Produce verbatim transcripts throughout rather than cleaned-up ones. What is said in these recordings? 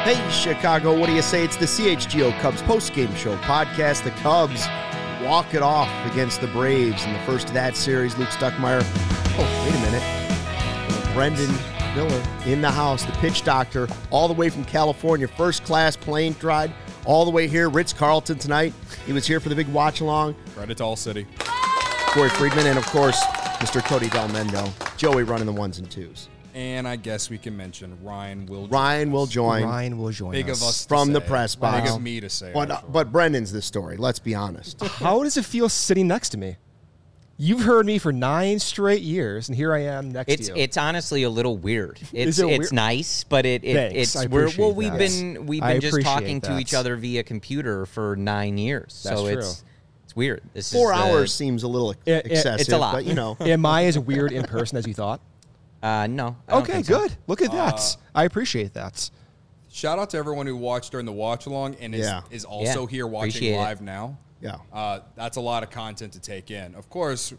Hey, Chicago, what do you say? It's the C H G O Cubs postgame show podcast. The Cubs walk it off against the Braves in the first of that series. Luke Stuckmeyer. Oh, wait a minute. Brendan Miller in the house, the pitch doctor, all the way from California. First class plane ride all the way here. Ritz-Carlton tonight. He was here for the big watch-along. Right at All City. Corey Friedman, and, of course, Mister Cody Del Mendo. Joey running the ones and twos. And I guess we can mention Ryan will join Ryan us. will join. Ryan will join Big us. of us to From the say. press box. Big of me to say. But, uh, but Brendan's the story, let's be honest. How does it feel sitting next to me? You've heard me for nine straight years, and here I am next It's to you. it's honestly a little weird. It's it it's weird? nice, but it, it Thanks, it's I we're, well appreciate we've that. been we've I been just appreciate talking to that. each other via computer for nine years. That's so true. it's it's weird. This Four is the- hours seems a little It- it- excessive, it's a lot. but, you know. Am I as weird in person as you thought? Uh, no. I don't Okay, think so. good. Look at that. I appreciate that. Shout out to everyone who watched during the watch along and is, Yeah. is also Yeah, here watching appreciate it. live now. Yeah. Uh, that's a lot of content to take in. Of course,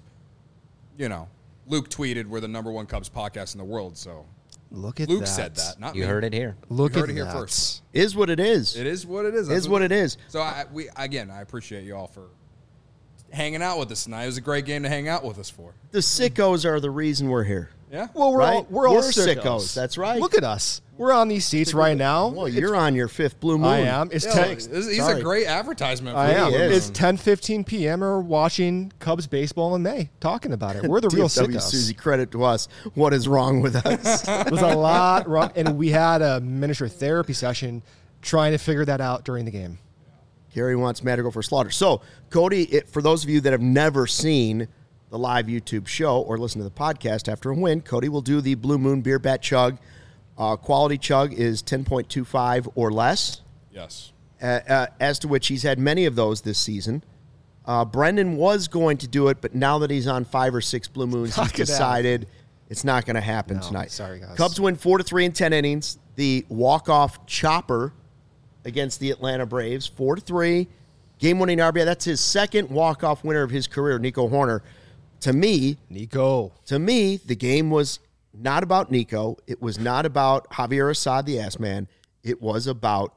you know, Luke tweeted we're the number one Cubs podcast in the world, so Look at Luke that. said that, not You me. heard it here. Look You at heard it here that. first. Is what it is. It is what it is. Is That's what it is. So I, we again, I appreciate you all for hanging out with us tonight. It was a great game to hang out with us for. The sickos are the reason we're here. Yeah. Well, we're all Right? we're all We're sickos. sickos, that's right. Look at us. We're on these seats right now. Well, you're on your fifth blue moon. I am. It's Yeah, ten. this- he's Sorry. a great advertisement. For I am. you. is. It's ten fifteen p.m. We're watching Cubs baseball in May, talking about it. We're the T real F W sickos. Susie, credit to us. What is wrong with us? There's a lot wrong, and we had a miniature therapy session trying to figure that out during the game. Gary wants Madrigal for slaughter. So, Cody, it, for those of you that have never seen the live YouTube show or listen to the podcast after a win, Cody will do the Blue Moon Beer Bat Chug. Uh, quality chug is ten point two five or less, Yes. uh, uh, as to which he's had many of those this season. Uh, Brendan was going to do it, but now that he's on five or six Blue Moons, he's Knock it out. decided it's not going to happen No, tonight. sorry, guys. Cubs win four to three in ten innings. The walk-off chopper against the Atlanta Braves, four to three, game-winning R B I. That's his second walk-off winner of his career, Nico Horner. To me, Nico. to me, the game was not about Nico. It was not about Javier Assad, the ass man. It was about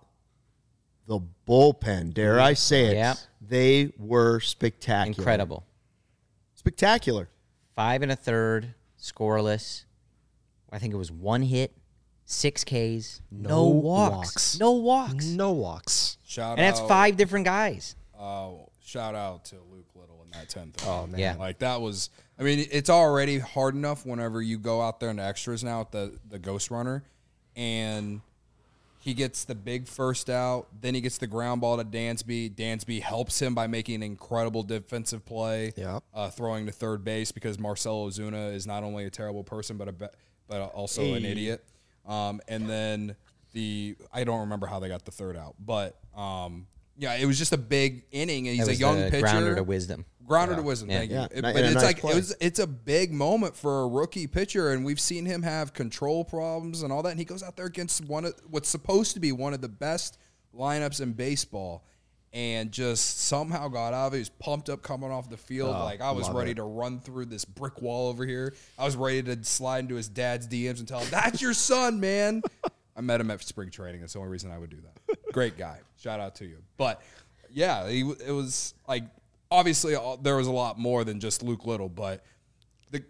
the bullpen. Dare I say it? Yeah. They were spectacular. Incredible. Spectacular. Five and a third, scoreless. I think it was one hit, six Ks, no, No walks. walks. no walks, No walks. Shout and that's out, five different guys. Uh, shout out to Luke Little in that tenth. Oh, man. Yeah. Like that was. I mean, it's already hard enough whenever you go out there in the extras now with the the Ghost Runner, and he gets the big first out. Then he gets the ground ball to Dansby. Dansby helps him by making an incredible defensive play, Yep. uh, throwing to third base because Marcelo Ozuna is not only a terrible person but a be- but also an Hey. idiot. Um, and then the I don't remember how they got the third out, but um, yeah, it was just a big inning, and he's That a was young the pitcher. grounder to wisdom. Grounder to wisdom, Yeah. thank Yeah, you. It- and but a it's nice like play. it was, it's a big moment for a rookie pitcher, and we've seen him have control problems and all that. And he goes out there against one of what's supposed to be one of the best lineups in baseball, and just somehow got out of it. He was pumped up coming off the field. Oh, like I was love ready it. to run through this brick wall over here. I was ready to slide into his dad's D Ms and tell him, "That's your son, man." I met him at spring training. That's the only reason I would do that. Great guy. Shout out to you. But yeah, he, it was like obviously all, there was a lot more than just Luke Little. But the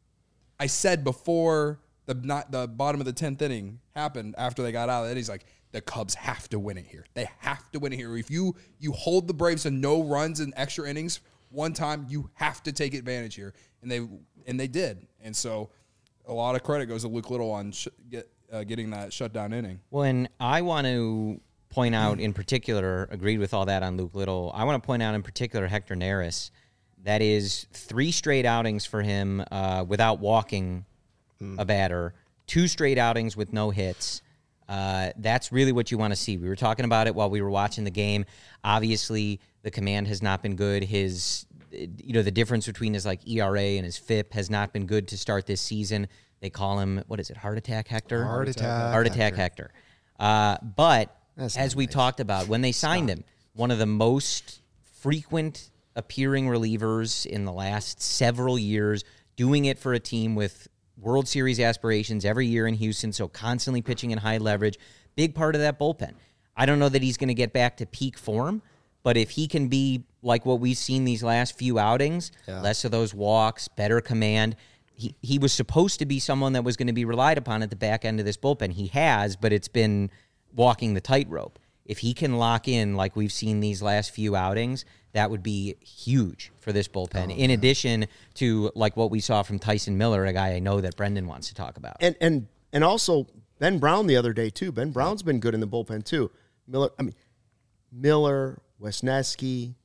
I said before the not the bottom of the tenth inning happened after they got out of it. He's like, the Cubs have to win it here. They have to win it here. If you you hold the Braves to no runs in extra innings one time, you have to take advantage here, and they and they did. And so a lot of credit goes to Luke Little on sh- get, uh, getting that shutdown inning. Well, and I want to point out in particular, agreed with all that on Luke Little. I want to point out in particular Hector Neris. That is three straight outings for him uh, without walking a batter, two straight outings with no hits. Uh, that's really what you want to see. We were talking about it while we were watching the game. Obviously, the command has not been good. His, you know, the difference between his like E R A and his F I P has not been good to start this season. They call him, what is it, Heart Attack Hector? Heart attack. Heart Attack Hector. Uh, but That's as not we nice. talked about, when they signed him, one of the most frequent appearing relievers in the last several years, doing it for a team with World Series aspirations every year in Houston, so constantly pitching in high leverage, big part of that bullpen. I don't know that he's going to get back to peak form, but if he can be like what we've seen these last few outings, yeah. less of those walks, better command. He he was supposed to be someone that was going to be relied upon at the back end of this bullpen. He has, but it's been walking the tightrope. If he can lock in like we've seen these last few outings, that would be huge for this bullpen. Oh, in man. addition to like what we saw from Tyson Miller, a guy I know that Brendan wants to talk about. And and and also Ben Brown the other day too. Ben Brown's been good in the bullpen too. Miller, I mean Miller, Wesneski,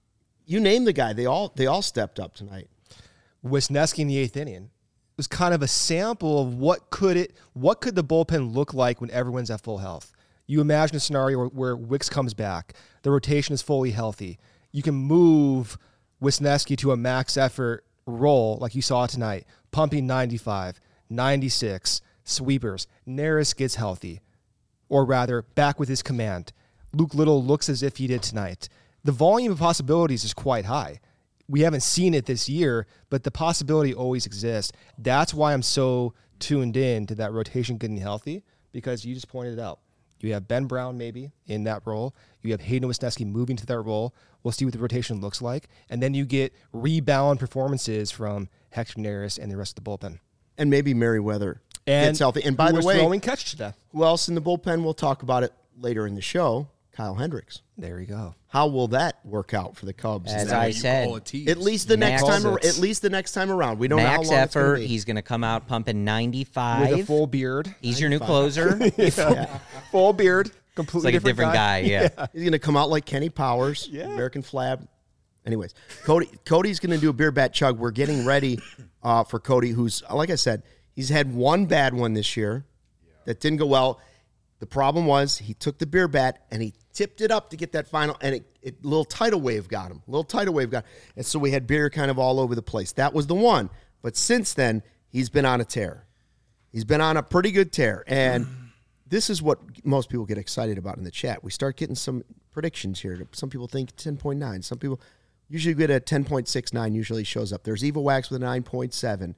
you name the guy. They all they all stepped up tonight. Wisniewski in the eighth inning was kind of a sample of what could it, what could the bullpen look like when everyone's at full health. You imagine a scenario where, where Wicks comes back, the rotation is fully healthy. You can move Wisniewski to a max effort role like you saw tonight, pumping ninety-five, ninety-six, sweepers. Neris gets healthy, or rather back with his command. Luke Little looks as if he did tonight. The volume of possibilities is quite high. We haven't seen it this year, but the possibility always exists. That's why I'm so tuned in to that rotation getting healthy, because you just pointed it out. You have Ben Brown maybe in that role. You have Hayden Wesneski moving to that role. We'll see what the rotation looks like. And then you get rebound performances from Hector Neris and the rest of the bullpen. And maybe Merriweather and gets healthy. And by the way, throwing catch today. Who else in the bullpen? We'll talk about it later in the show. Kyle Hendricks. There you go. How will that work out for the Cubs? As I said, at least the next time. Ar- at least the next time around. We don't Max know how long effort. It's be. He's going to come out pumping ninety-five with a full beard. He's your new closer. yeah. Full beard. Completely it's like different a different guy. guy yeah. yeah. He's going to come out like Kenny Powers. Yeah. American Flab. Anyways, Cody. Cody's going to do a beer bat chug. We're getting ready uh, for Cody, who's like I said, he's had one bad one this year yeah. that didn't go well. The problem was he took the beer bat and he tipped it up to get that final, and it, it little tidal wave got him. Little tidal wave got him. And so we had beer kind of all over the place. That was the one. But since then, he's been on a tear. He's been on a pretty good tear. And this is what most people get excited about in the chat. We start getting some predictions here. Some people think ten point nine. Some people usually get a ten point six nine usually shows up. There's Evo Wax with a nine point seven.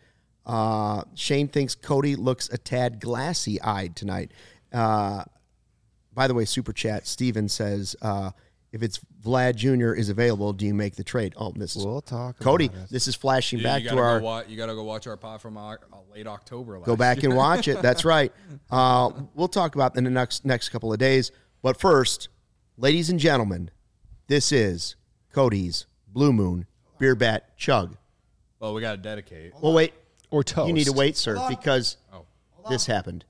Uh, Shane thinks Cody looks a tad glassy-eyed tonight. Uh, by the way, Super Chat, Steven says, uh, if it's Vlad Junior is available, do you make the trade? Oh, this is we'll talk Cody. About this is flashing Dude, back you to our. Go watch, you got to go watch our pod from uh, late October. Last Go back year. and watch it. That's right. Uh, we'll talk about it in the next next couple of days. But first, ladies and gentlemen, this is Cody's Blue Moon Beer Bat Chug. Well, we got to dedicate. Well, wait. Or toast. You need to wait, sir, because oh. this happened.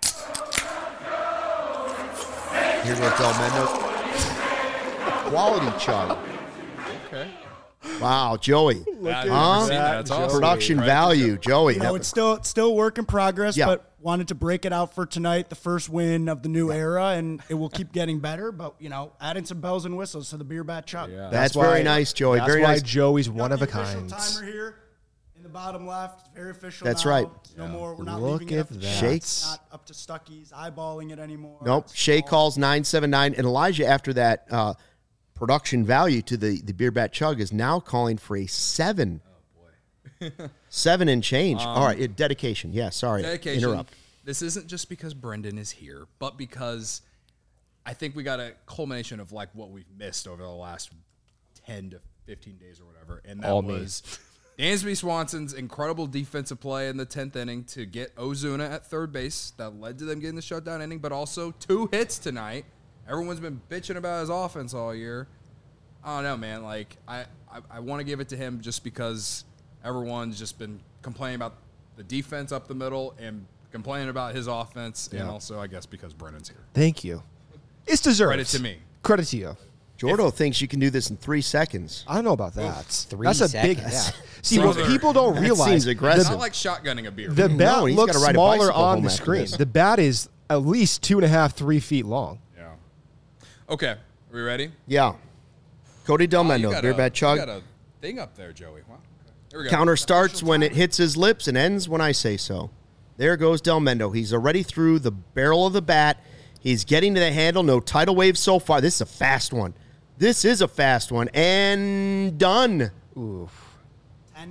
Here's what's all Mendo. Quality chug. Okay. Wow, Joey. That, huh? That's awesome. Production Right. value, Joey. You know, it's still it's still work in progress, Yeah. but wanted to break it out for tonight, the first win of the new era, and it will keep getting better. But you know, adding some bells and whistles to the beer bat chug. Yeah. That's, That's why- very nice, Joey. That's Very why nice. Joey's Got one of the a official kind. Timer here in the bottom left. It's very official. That's now. right. No more. We're not Look leaving it up at to that. chance. It's Shakes. not up to Stuckey's eyeballing it anymore. Nope. It's Shay all- calls nine seven nine. And Elijah, after that uh, production value to the, the beer bat chug, is now calling for a seven. Oh, boy. seven and change. Um, All right. It, dedication. Yeah, sorry. Dedication. Interrupt. This isn't just because Brendan is here, but because I think we got a culmination of like what we've missed over the last ten to fifteen days or whatever. And that All me. was Dansby Swanson's incredible defensive play in the tenth inning to get Ozuna at third base. That led to them getting the shutdown inning, but also two hits tonight. Everyone's been bitching about his offense all year. I don't know, man. Like, I, I, I want to give it to him just because everyone's just been complaining about the defense up the middle and complaining about his offense, and Yeah. also, I guess, because Brennan's here. Thank you. It's deserved. Credit to me. Credit to you. Jordo thinks you can do this in three seconds. I don't know about that. Three That's a big seconds. gap. See, what Brother, people don't that realize, seems aggressive. It's the, not like shotgunning a beer. the No, bat he's looks gotta ride a smaller bicycle on home the after screen. this. The bat is at least two and a half, three feet long. yeah. Okay. Are we ready? Yeah. Cody Del Oh, you Mendo, got beer a- bat chug. You got a thing up there, Joey. Wow. Okay. Here we go. Counter starts when it hits his lips and ends when I say so. There goes Del Mendo. He's already through the barrel of the bat. He's getting to the handle. No tidal wave so far. This is a fast one. This is a fast one. And done. Oof. ten two.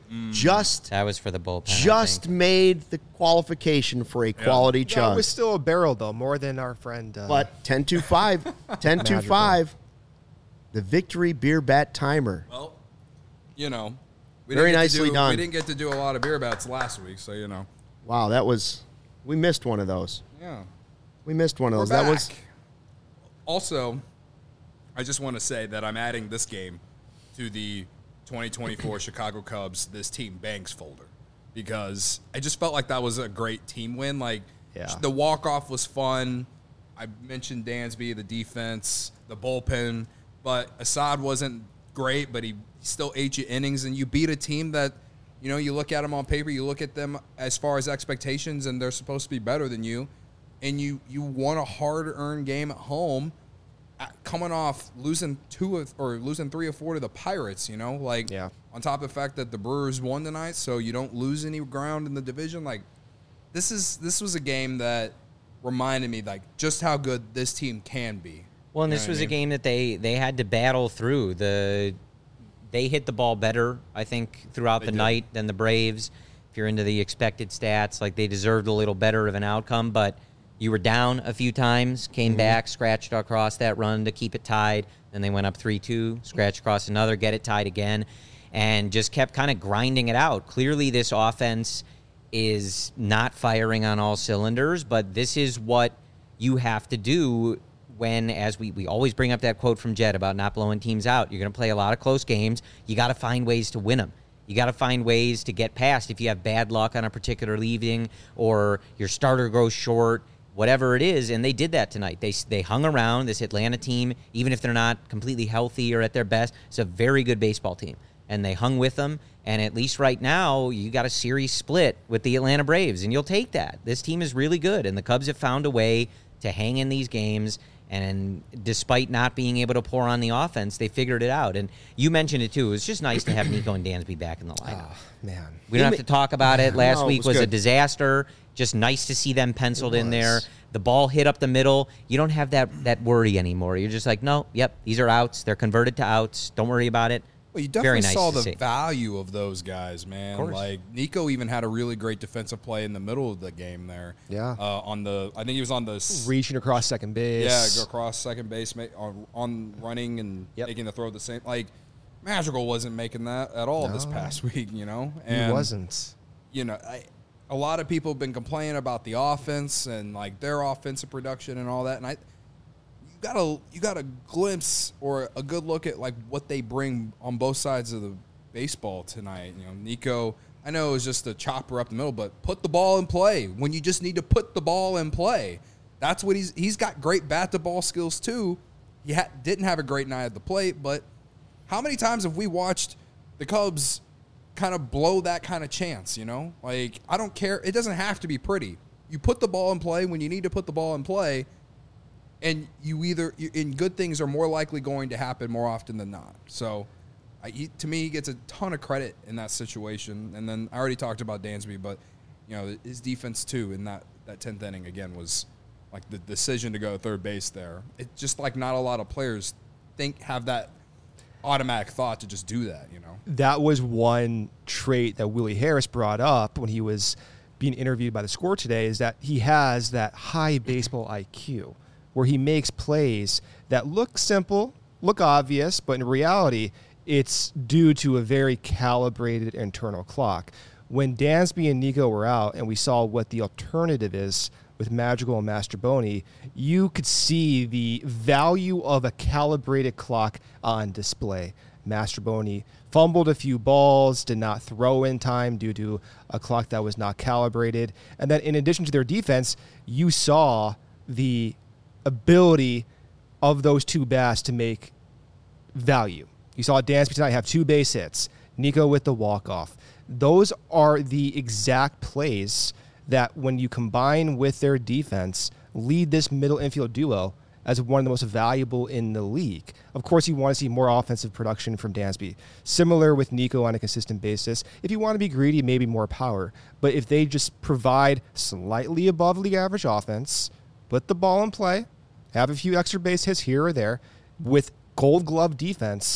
just That was for the bullpen. I just think. made the qualification for a quality That chunk. was still a barrel, though, more than our friend. Uh, But ten two five, ten two five, the victory beer bat timer. Well, you know, we Very didn't get to nicely do- done. We didn't get to do a lot of beer bats last week, so you know. Wow, that was we missed one of those. Yeah. We missed one of We're those. That back. was Also, I just want to say that I'm adding this game to the twenty twenty-four Chicago Cubs This Team Banks folder because I just felt like that was a great team win. Like Yeah. the walk-off was fun. I mentioned Dansby, the defense, the bullpen, but Assad wasn't great, but he still ate you innings, and you beat a team that, you know, you look at them on paper, you look at them as far as expectations, and they're supposed to be better than you, and you you won a hard-earned game at home, uh, coming off losing two of, or losing three or four to the Pirates. You know, like Yeah. on top of the fact that the Brewers won tonight, so you don't lose any ground in the division. Like this is this was a game that reminded me like just how good this team can be. Well, and You this know what was I a mean? game that they they had to battle through. The they hit the ball better, I think, throughout They the did. night than the Braves. If you're into the expected stats, like they deserved a little better of an outcome, but you were down a few times, came Mm-hmm. back, scratched across that run to keep it tied. Then they went up three two, scratched across another, get it tied again, and just kept kind of grinding it out. Clearly, this offense is not firing on all cylinders, but this is what you have to do when, as we, we always bring up that quote from Jed about not blowing teams out. You're going to play a lot of close games. You got to find ways to win them. You got to find ways to get past if you have bad luck on a particular leaving or your starter goes short, whatever it is, and they did that tonight. They they hung around this Atlanta team, even if they're not completely healthy or at their best. It's a very good baseball team, and they hung with them. And at least right now, you got a series split with the Atlanta Braves, and you'll take that. This team is really good, and the Cubs have found a way to hang in these games. And despite not being able to pour on the offense, they figured it out. And you mentioned it, too. It was just nice to have Nico and Dansby back in the lineup. man. We don't have to talk about it. Last No, it week was was a good. disaster. Just nice to see them penciled It in there. was. The ball hit up the middle. You don't have that that worry anymore. You're just like, no, yep, these are outs. They're converted to outs. Don't worry about it. Well, you Very definitely nice saw to the see. value of those guys, man. course. Like Nico even had a really great defensive play in the middle of the game there. Yeah. Uh, on the, I think he was on the s- Reaching across second base. yeah, go across second base, ma- on, on running and Yep. making the throw at the same. Like Madrigal wasn't making that at all this No. past week, you know. He And, wasn't. You know, I, a lot of people have been complaining about the offense and like their offensive production and all that, and I. You got a you got a glimpse or a good look at like what they bring on both sides of the baseball tonight. You know, Nico, I know it was just a chopper up the middle, but put the ball in play when you just need to put the ball in play. That's what he's he's got great bat to ball skills too. He ha- didn't have a great night at the plate, but how many times have we watched the Cubs kind of blow that kind of chance? You know, like I don't care. It doesn't have to be pretty. You put the ball in play when you need to put the ball in play. And you either, you, and good things are more likely going to happen more often than not. So, I, he, to me, he gets a ton of credit in that situation. And then I already talked about Dansby, but you know his defense too in that that tenth inning again was like the decision to go third base there. It's just like not a lot of players think have that automatic thought to just do that. You know. That was one trait that Willie Harris brought up when he was being interviewed by the Score today, is that he has that high baseball I Q where he makes plays that look simple, look obvious, but in reality, it's due to a very calibrated internal clock. When Dansby and Nico were out and we saw what the alternative is with Madrigal and Mastrobuoni, you could see the value of a calibrated clock on display. Mastrobuoni fumbled a few balls, did not throw in time due to a clock that was not calibrated. And then in addition to their defense, you saw the ability of those two bats to make value. You saw Dansby tonight have two base hits, Nico with the walk-off. Those are the exact plays that, when you combine with their defense, lead this middle infield duo as one of the most valuable in the league. Of course, you want to see more offensive production from Dansby. Similar with Nico on a consistent basis. If you want to be greedy, maybe more power. But if they just provide slightly above league average offense, put the ball in play, have a few extra base hits here or there, with gold glove defense,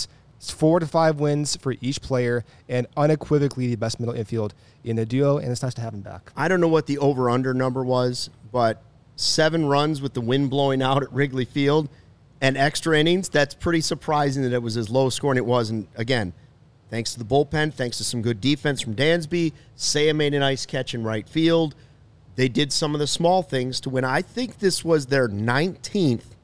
It's four to five wins for each player, and unequivocally the best middle infield in the duo, and it's nice to have him back. I don't know what the over-under number was, but seven runs with the wind blowing out at Wrigley Field and extra innings, that's pretty surprising that it was as low scoring it was. And again, thanks to the bullpen, thanks to some good defense from Dansby, Seiya made a nice catch in right field. They did some of the small things to win. I think this was their nineteenth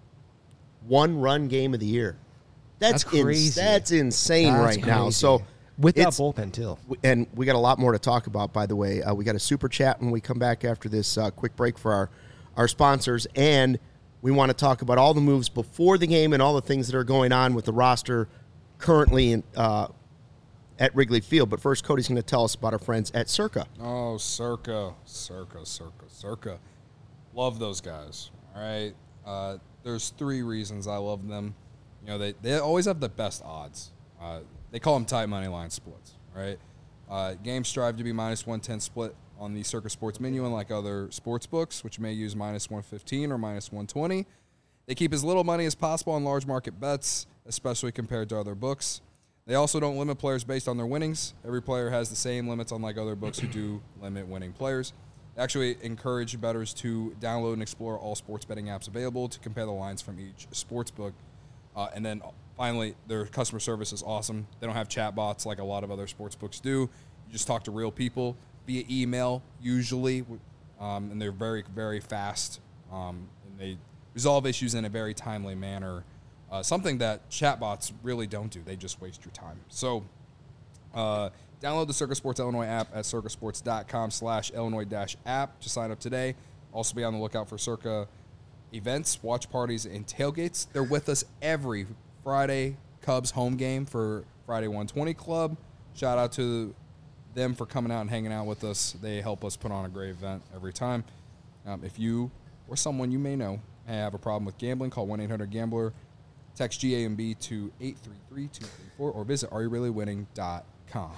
one-run game of the year. That's, That's crazy. Ins- that's insane That's right now. crazy. So With that it's- bullpen, too. and we got a lot more to talk about, by the way. Uh, we got a super chat when we come back after this uh, quick break for our, our sponsors. And we want to talk about all the moves before the game and all the things that are going on with the roster currently in, uh, at Wrigley Field. But first, Cody's going to tell us about our friends at Circa. Oh, Circa, Circa, Circa, Circa. Love those guys. All right. Uh, there's three reasons I love them. You know, they, they always have the best odds. Uh, they call them tight money line splits, right? Uh, games strive to be minus one ten split on the Circa Sports menu, unlike other sports books, which may use minus one fifteen or minus one twenty. They keep as little money as possible on large market bets, especially compared to other books. They also don't limit players based on their winnings. Every player has the same limits, unlike other books who do limit winning players. They actually encourage bettors to download and explore all sports betting apps available to compare the lines from each sports book. Uh, and then finally, their customer service is awesome. They don't have chat bots like a lot of other sports books do. You just talk to real people via email, usually, um, and they're very, very fast. Um, and they resolve issues in a very timely manner, uh, something that chat bots really don't do. They just waste your time. So uh, download the Circa Sports Illinois app at circasports.com slash Illinois dash app to sign up today. Also be on the lookout for Circa events, watch parties, and tailgates. They're with us every Friday Cubs home game for Friday one twenty Club. Shout out to them for coming out and hanging out with us. They help us put on a great event every time. Um, if you or someone you may know have a problem with gambling, call one eight hundred gambler, text G A M B to eight three three two three four, or visit are you really winning dot com.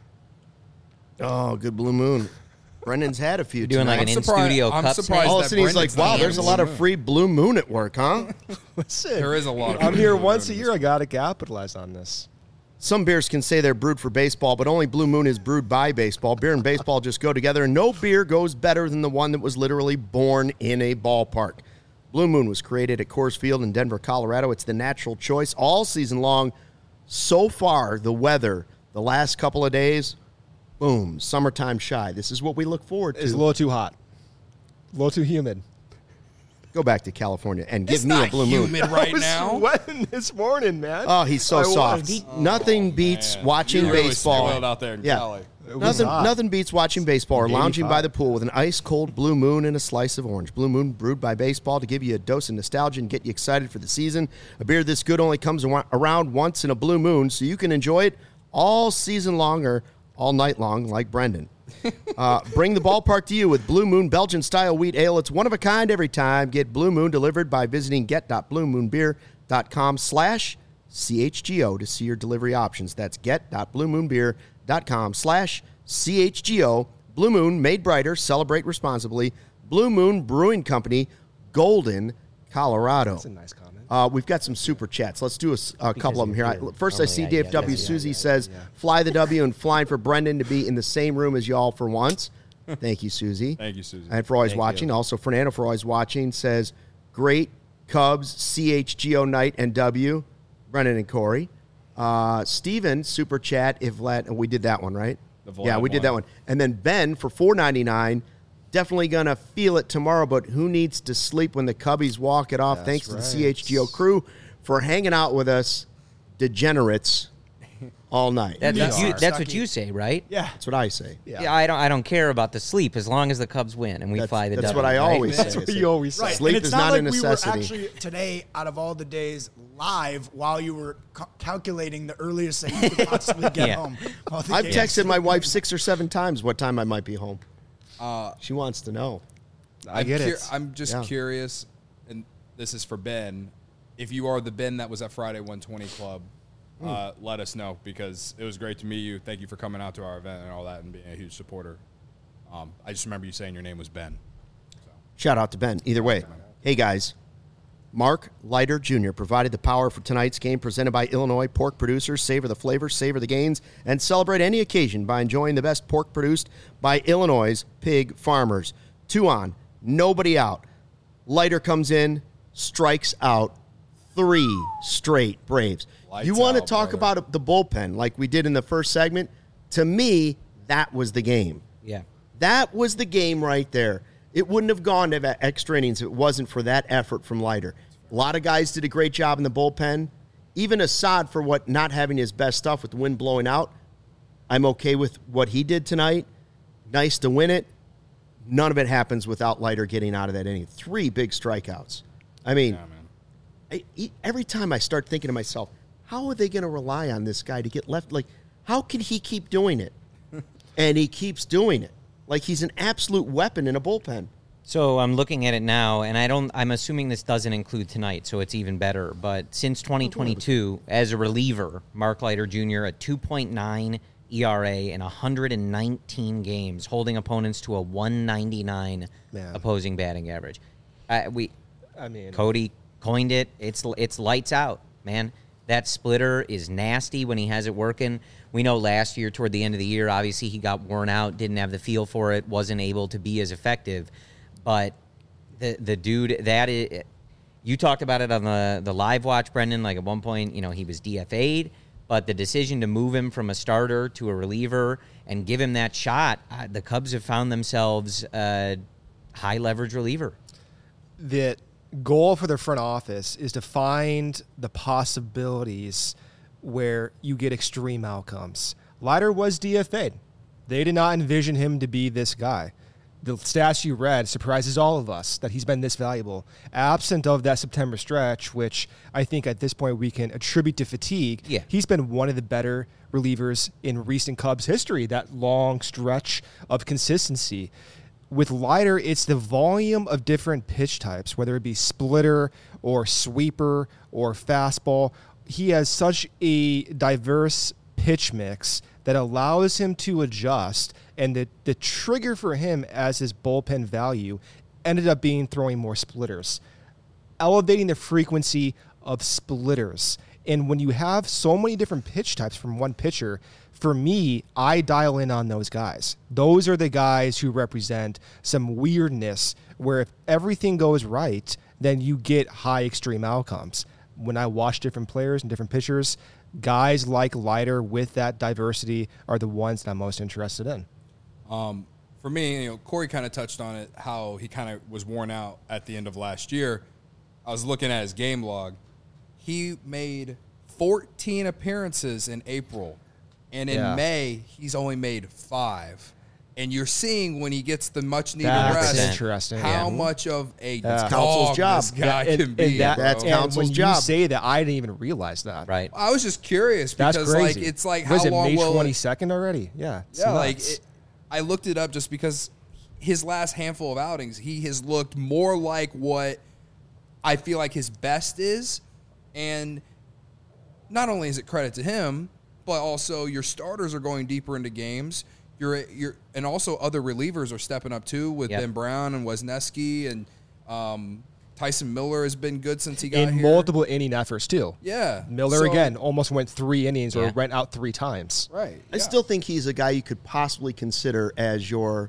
Oh, good Blue Moon. Brendan's had a few. You're doing like tonight. an I'm surprised- in-studio I'm cup surprised snake? All of a that sudden he's like, Brendan's wow, not there's a Blue lot of Moon. free Blue Moon at work, huh? Listen, There is a lot of I'm free here Blue once a Moon in year. this I got to capitalize on this. Some beers can say they're brewed for baseball, but only Blue Moon is brewed by baseball. Beer and baseball just go together, and no beer goes better than the one that was literally born in a ballpark. Blue Moon was created at Coors Field in Denver, Colorado. It's the natural choice all season long. So far, the weather, the last couple of days, boom, summertime shy. This is what we look forward to. It's a little too hot. A little too humid. Go back to California and give It's me not a Blue Moon. humid right I was now. sweating this morning, man. Oh, he's so I soft. was. Nothing beats Man, watching you really baseball. spoiled out there in yeah. Cali. It was Nothing, hot. nothing beats watching baseball or lounging by eighty-five. the pool with an ice-cold Blue Moon and a slice of orange. Blue Moon brewed by baseball to give you a dose of nostalgia and get you excited for the season. A beer this good only comes ar- around once in a Blue Moon, so you can enjoy it all season long or all night long like Brendan. Uh, bring the ballpark to you with Blue Moon Belgian-style wheat ale. It's one of a kind every time. Get Blue Moon delivered by visiting get.bluemoonbeer.com slash CHGO to see your delivery options. That's get.bluemoonbeer.com slash CHGO. Blue Moon, made brighter. Celebrate responsibly. Blue Moon Brewing Company, Golden, Colorado. That's a nice comment. Uh, we've got some super chats. Let's do a, s- a couple of them here. I, you're first, I see normally, yeah, D F W yeah, yeah, Susie yeah, says, yeah. fly the W and flying for Brendan to be in the same room as y'all for once. Thank you, Susie. Thank you, Susie. And for always Thank watching. you. Also, Fernando for always watching says, great Cubs, C H G O night and W. Brendan and Corey. Uh, Steven, super chat, if Vlad, and we did that one, right? The Vlad yeah, we did that one. one. And then Ben for four ninety-nine. Definitely going to feel it tomorrow, but who needs to sleep when the Cubbies walk it off? That's Thanks to the right. C H G O crew for hanging out with us, degenerates, all night. That's, Yeah. what you, Are. that's what you say, right? Yeah. That's what I say. Yeah. Yeah, I don't. I don't care about the sleep as long as the Cubs win and we That's- fly the. that's W, what I right? always say. That's what you always say. Right. Sleep and it's is not, not a like necessity. we were actually today, out of all the days, live while you were ca- calculating the earliest that you could possibly get Yeah. home. while the I've game- texted my wife six or seven times what time I might be home. Uh, She wants to know. I I'm get cur- it. I'm just Yeah. curious, and this is for Ben. If you are the Ben that was at Friday one twenty Club, uh, let us know because it was great to meet you. Thank you for coming out to our event and all that and being a huge supporter. Um, I just remember you saying your name was Ben. Shout out to Ben. Either way. Hey, guys. Mark Leiter Junior provided the power for tonight's game, presented by Illinois Pork Producers. Savor the flavor, savor the gains, and celebrate any occasion by enjoying the best pork produced by Illinois' pig farmers. Two on, nobody out. Leiter comes in, strikes out three straight Braves. Lights you want to out, talk brother. about the bullpen like we did in the first segment? To me, that was the game. Yeah. That was the game right there. It wouldn't have gone to extra innings if it wasn't for that effort from Leiter. A lot of guys did a great job in the bullpen. Even Assad, for what not having his best stuff with the wind blowing out, I'm okay with what he did tonight. Nice to win it. None of it happens without Leiter getting out of that inning. Three big strikeouts. I mean, Yeah, man. I, he- every time I start thinking to myself, how are they going to rely on this guy to get left? Like, how can he keep doing it? And he keeps doing it. Like he's an absolute weapon in a bullpen. So I'm looking at it now, and I don't. I'm assuming this doesn't include tonight, so it's even better. But since twenty twenty-two, as a reliever, Mark Leiter Junior a two point nine E R A in one hundred nineteen games, holding opponents to a one ninety-nine Man. opposing batting average. Uh, we, I mean, Cody coined it. It's it's lights out, man. That splitter is nasty when he has it working. We know last year, toward the end of the year, obviously he got worn out, didn't have the feel for it, wasn't able to be as effective. But the the dude, that is, you talked about it on the, the live watch, Brendan. Like at one point, you know, he was D F A'd, but the decision to move him from a starter to a reliever and give him that shot, uh, the Cubs have found themselves a high leverage reliever. the goal for the front office is to find the possibilities where you get extreme outcomes. Leiter was D F A'd. They did not envision him to be this guy. The stats you read surprises all of us that he's been this valuable. Absent of that September stretch, which I think at this point we can attribute to fatigue, Yeah. he's been one of the better relievers in recent Cubs history, that long stretch of consistency. With Leiter, it's the volume of different pitch types, whether it be splitter or sweeper or fastball. He has such a diverse pitch mix that allows him to adjust, and the, the trigger for him as his bullpen value ended up being throwing more splitters, elevating the frequency of splitters. And when you have so many different pitch types from one pitcher, for me, I dial in on those guys. Those are the guys who represent some weirdness where if everything goes right, then you get high extreme outcomes. When I watch different players and different pitchers, guys like Leiter with that diversity are the ones that I'm most interested in. Um, for me, you know, Corey kind of touched on it, how he kind of was worn out at the end of last year. I was looking at his game log. He made fourteen appearances in April, and in Yeah. May, he's only made five. And you're seeing when he gets the much-needed That's rest, interesting. how Yeah. much of a That's dog Council's job. this guy And- can be. and that- bro. That's and Council's when job. you say that, I didn't even realize that. Right. I was just curious That's because, crazy. like, it's like What is how it, long May will it- twenty-second already? Yeah. it's Yeah, like nuts. it, I looked it up just because his last handful of outings, he has looked more like what I feel like his best is, and not only is it credit to him, but also your starters are going deeper into games. You're you're and also other relievers are stepping up too with Yep. Ben Brown and Wisniewski, and um, Tyson Miller has been good since he got in here. multiple inning efforts too. Yeah, Miller So- again almost went three innings or Yeah. went out three times. Right. I yeah. still think he's a guy you could possibly consider as your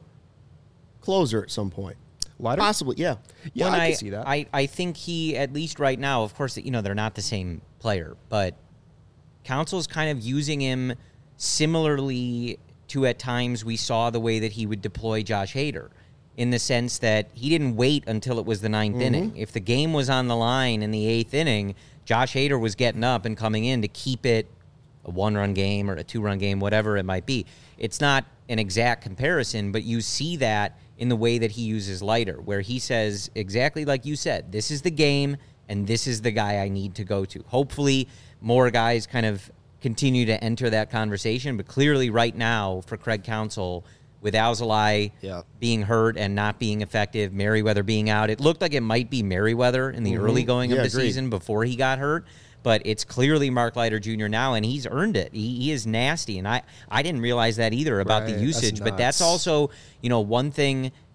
closer at some point. Leiter? Possibly, yeah. Yeah, When I, I, can see that. I, I think he, at least right now, of course, you know, they're not the same player, but Council's kind of using him similarly to at times we saw the way that he would deploy Josh Hader, in the sense that he didn't wait until it was the ninth inning. If the game was on the line in the eighth inning, Josh Hader was getting up and coming in to keep it a one-run game or a two-run game, whatever it might be. It's not an exact comparison, but you see that in the way that he uses Leiter, where he says, exactly like you said, this is the game, and this is the guy I need to go to. Hopefully, more guys kind of continue to enter that conversation, but clearly right now, for Craig Counsell, with Alzolay Yeah. being hurt and not being effective, Merriweather being out, it looked like it might be Merriweather in the early going Yeah, of the agreed. season before he got hurt. But it's clearly Mark Leiter Junior now, and he's earned it. He, he is nasty, and I, I didn't realize that either about Right, the that's usage. But that's nuts. also, you know, one thing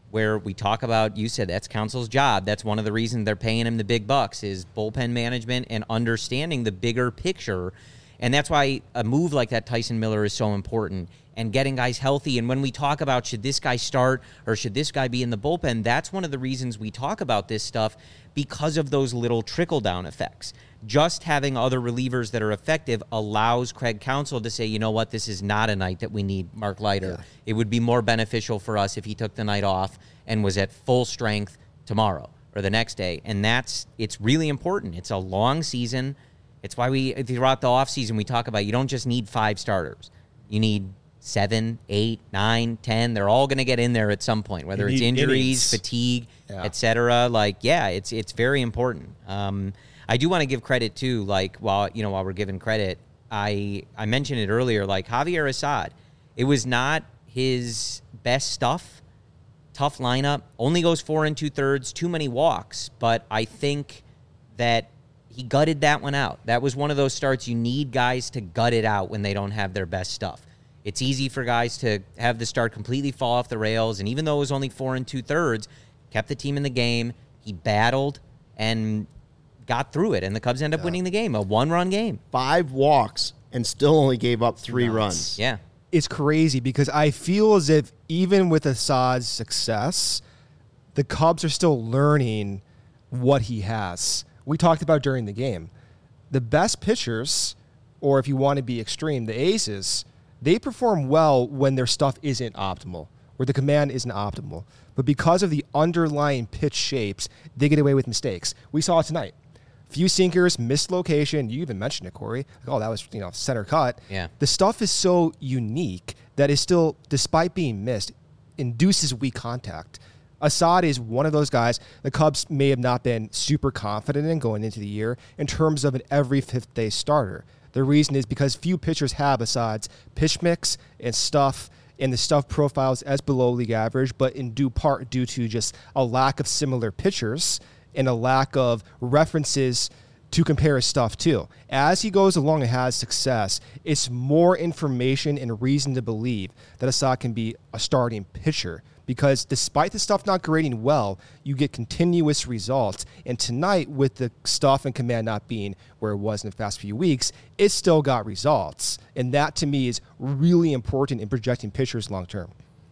where we talk about, you said that's Council's job. That's one of the reasons they're paying him the big bucks is bullpen management and understanding the bigger picture. And that's why a move like that Tyson Miller is so important and getting guys healthy. And when we talk about should this guy start or should this guy be in the bullpen, that's one of the reasons we talk about this stuff because of those little trickle-down effects. Just having other relievers that are effective allows Craig Counsell to say, you know what, this is not a night that we need Mark Leiter. Yeah. It would be more beneficial for us if he took the night off and was at full strength tomorrow or the next day. And that's, it's really important. It's a long season. It's why we, throughout the offseason, we talk about you don't just need five starters. You need seven, eight, nine, ten. They're all going to get in there at some point, whether it's injuries, innings. fatigue, yeah. et cetera. Like, yeah, it's it's very important. Um, I do want to give credit, too, like, while, you know, while we're giving credit, I, I mentioned it earlier, like, Javier Assad, it was not his best stuff. Tough lineup. Only goes four and two-thirds, too many walks. But I think that he gutted that one out. That was one of those starts you need guys to gut it out when they don't have their best stuff. It's easy for guys to have the start completely fall off the rails, and even though it was only four and two-thirds, kept the team in the game. He battled and got through it, and the Cubs end up yeah. winning the game, a one-run game. Five walks and still only gave up three nice. runs. Yeah. It's crazy because I feel as if even with Assad's success, the Cubs are still learning what he has. We talked about during the game. The best pitchers, or if you want to be extreme, the aces, they perform well when their stuff isn't optimal, where the command isn't optimal. But because of the underlying pitch shapes, they get away with mistakes. We saw it tonight. Few sinkers, missed location. You even mentioned it, Corey. Like, oh, that was, you know, center cut. Yeah. The stuff is so unique that it still, despite being missed, induces weak contact. Assad is one of those guys the Cubs may have not been super confident in going into the year in terms of an every fifth day starter. The reason is because few pitchers have Assad's pitch mix and stuff, and the stuff profiles as below league average, but in due part due to just a lack of similar pitchers and a lack of references to compare his stuff to. As he goes along and has success, it's more information and reason to believe that Assad can be a starting pitcher. Because despite the stuff not grading well, you get continuous results. And tonight, with the stuff and command not being where it was in the past few weeks, it still got results. And that, to me, is really important in projecting pitchers long-term.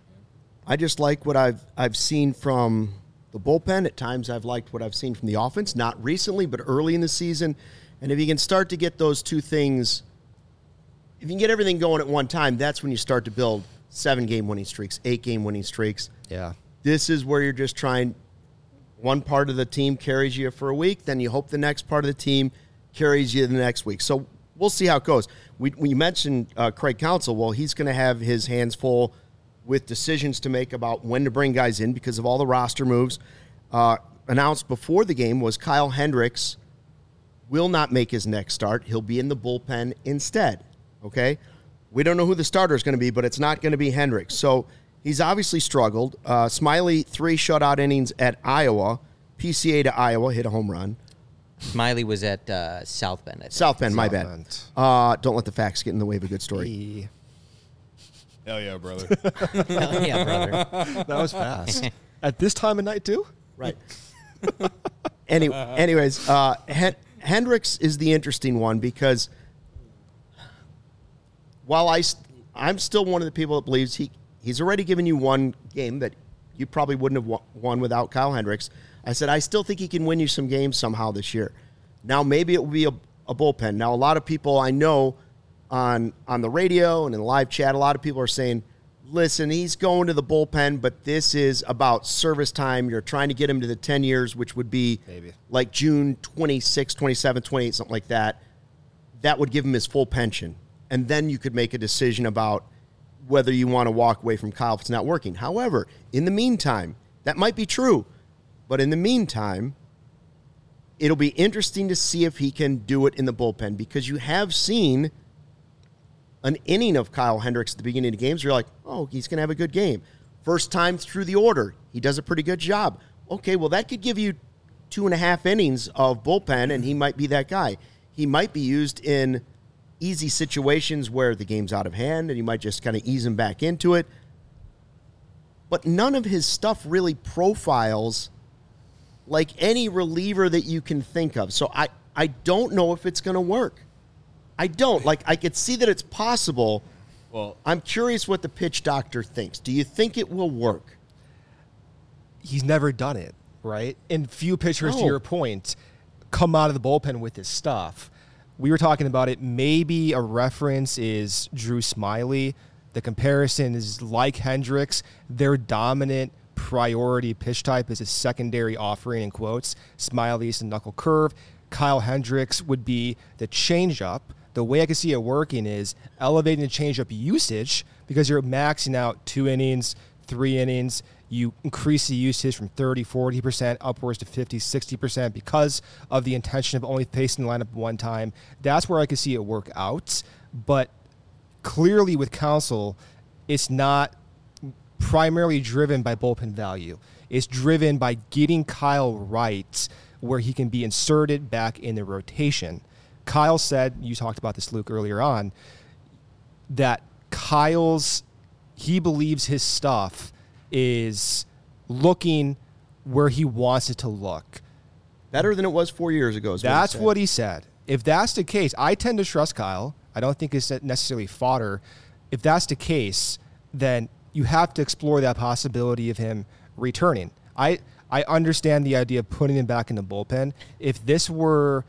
I just like what I've I've seen from the bullpen. At times, I've liked what I've seen from the offense. Not recently, but early in the season. And if you can start to get those two things, if you can get everything going at one time, that's when you start to build seven-game winning streaks, eight-game winning streaks. Yeah. This is where you're just trying, one part of the team carries you for a week, then you hope the next part of the team carries you the next week. So we'll see how it goes. We, we mentioned uh, Craig Counsell. Well, he's going to have his hands full with decisions to make about when to bring guys in because of all the roster moves. Uh, announced before the game was Kyle Hendricks will not make his next start. He'll be in the bullpen instead, okay? We don't know who the starter is going to be, but it's not going to be Hendricks. So he's obviously struggled. Uh, Smiley, three shutout innings at Iowa. P C A to Iowa, hit a home run. Smiley was at uh, South Bend, I think. South Bend, my South bad. Bend. Uh, don't let the facts get in the way of a good story. Hey. Hell yeah, brother. Hell yeah, brother. That was fast. At this time of night, too? Right. Any, anyways, uh, Hen- Hendricks is the interesting one because while I, st- I'm still one of the people that believes he he's already given you one game that you probably wouldn't have won without Kyle Hendricks. I said, I still think he can win you some games somehow this year. Now, maybe it will be a, a bullpen. Now, a lot of people I know on on the radio and in the live chat, a lot of people are saying, listen, he's going to the bullpen, but this is about service time. You're trying to get him to the ten years, which would be Maybe. like June twenty-sixth, twenty-seventh, twenty-eighth, something like that. That would give him his full pension. And then you could make a decision about whether you want to walk away from Kyle if it's not working. However, in the meantime, that might be true. But in the meantime, it'll be interesting to see if he can do it in the bullpen because you have seen an inning of Kyle Hendricks at the beginning of games. You're like, oh, he's going to have a good game. First time through the order, he does a pretty good job. Okay, well, that could give you two and a half innings of bullpen, and he might be that guy. He might be used in easy situations where the game's out of hand, and you might just kind of ease him back into it. but none of his stuff really profiles like any reliever that you can think of. So I, I don't know if it's going to work. I don't. Like, I could see that it's possible. Well, I'm curious what the pitch doctor thinks. Do you think it will work? He's never done it, right? And few pitchers, No. to your point, come out of the bullpen with his stuff. We were talking about it. Maybe a reference is Drew Smiley. The comparison is like Hendricks. Their dominant priority pitch type is a secondary offering, in quotes. Smiley's the knuckle curve. Kyle Hendricks would be the changeup. The way I can see it working is elevating the changeup usage because you're maxing out two innings, three innings. You increase the usage from thirty, forty percent upwards to fifty, sixty percent because of the intention of only facing the lineup one time. That's where I can see it work out. But clearly with Counsell, it's not primarily driven by bullpen value. It's driven by getting Kyle right where he can be inserted back in the rotation. Kyle said, you talked about this, Luke, earlier on, that Kyle's, he believes his stuff is looking where he wants it to look. Better than it was four years ago. Is That's what what he said. If that's the case, I tend to trust Kyle. I don't think it's necessarily fodder. If that's the case, then you have to explore that possibility of him returning. I I understand the idea of putting him back in the bullpen. If this were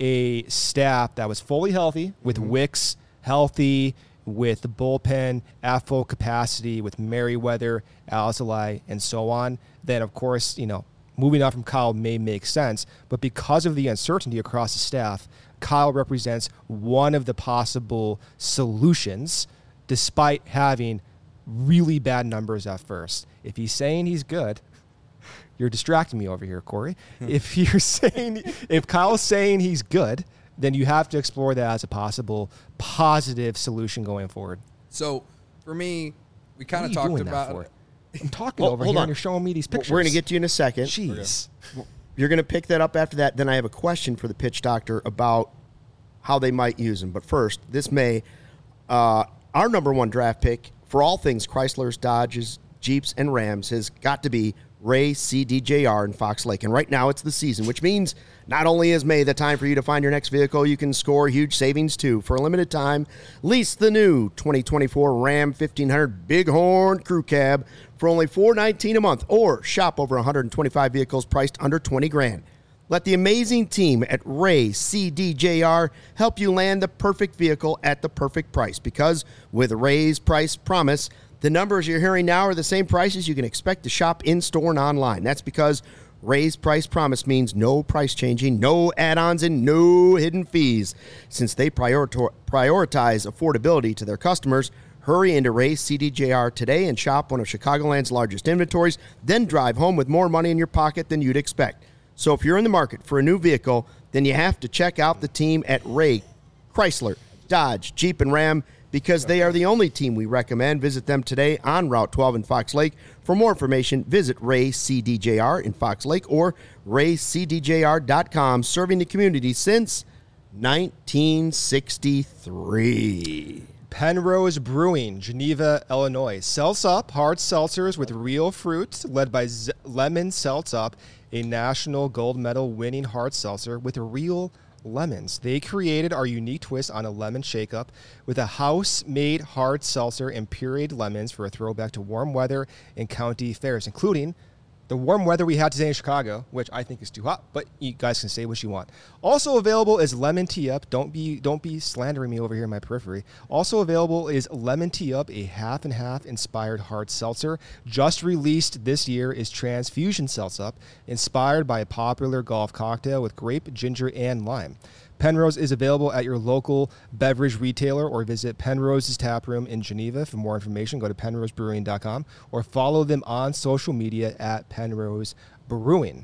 a staff that was fully healthy, with Mm-hmm. Wicks healthy, with the bullpen at full capacity, with Merriweather, Alzolay, and so on, then of course, you know, moving on from Kyle may make sense. But because of the uncertainty across the staff, Kyle represents one of the possible solutions, despite having really bad numbers at first. If he's saying he's good, you're distracting me over here, Corey. If you're saying, if Kyle's saying he's good, then you have to explore that as a possible positive solution going forward. so for me, we kind What are of you talked doing that about for? it. I'm talking Well, over hold here on. and you're showing me these We're pictures. going to get to you in a second. Jeez. You're going to pick that up after that. Then I have a question for the pitch doctor about how they might use him. But first, this May, uh, our number one draft pick for all things Chryslers, Dodges, Jeeps, and Rams has got to be Ray C D J R in Fox Lake. And right now it's the season, which means not only is May the time for you to find your next vehicle, you can score huge savings too. For a limited time, lease the new twenty twenty-four Ram fifteen hundred Bighorn Crew Cab for only four hundred nineteen dollars a month, or shop over one hundred twenty-five vehicles priced under twenty grand. Let the amazing team at Ray C D J R help you land the perfect vehicle at the perfect price, because with Ray's price promise, the numbers you're hearing now are the same prices you can expect to shop in-store and online. That's because Ray's price promise means no price changing, no add-ons, and no hidden fees. Since they prioritize affordability to their customers, hurry into Ray's C D J R today and shop one of Chicagoland's largest inventories, then drive home with more money in your pocket than you'd expect. So if you're in the market for a new vehicle, then you have to check out the team at Ray, Chrysler, Dodge, Jeep, and Ram, because they are the only team we recommend. Visit them today on Route twelve in Fox Lake. For more information, visit Ray C D J R in Fox Lake or ray c d j r dot com, serving the community since nineteen sixty-three. Penrose Brewing, Geneva, Illinois. Seltz Up hard seltzers with real fruit, led by Z- Lemon Seltz Up, a national gold medal winning hard seltzer with real lemons. They created our unique twist on a lemon shake-up with a house-made hard seltzer and pureed lemons for a throwback to warm weather and county fairs, including the warm weather we had today in Chicago, which I think is too hot, but you guys can say what you want. Also available is Lemon Tea Up. Don't be don't be slandering me over here in my periphery. Also available is Lemon Tea Up, a half and half inspired hard seltzer. Just released this year is Transfusion Seltz Up, inspired by a popular golf cocktail with grape, ginger, and lime. Penrose is available at your local beverage retailer, or visit Penrose's Tap Room in Geneva. For more information, go to penrose brewing dot com or follow them on social media at Penrose Brewing.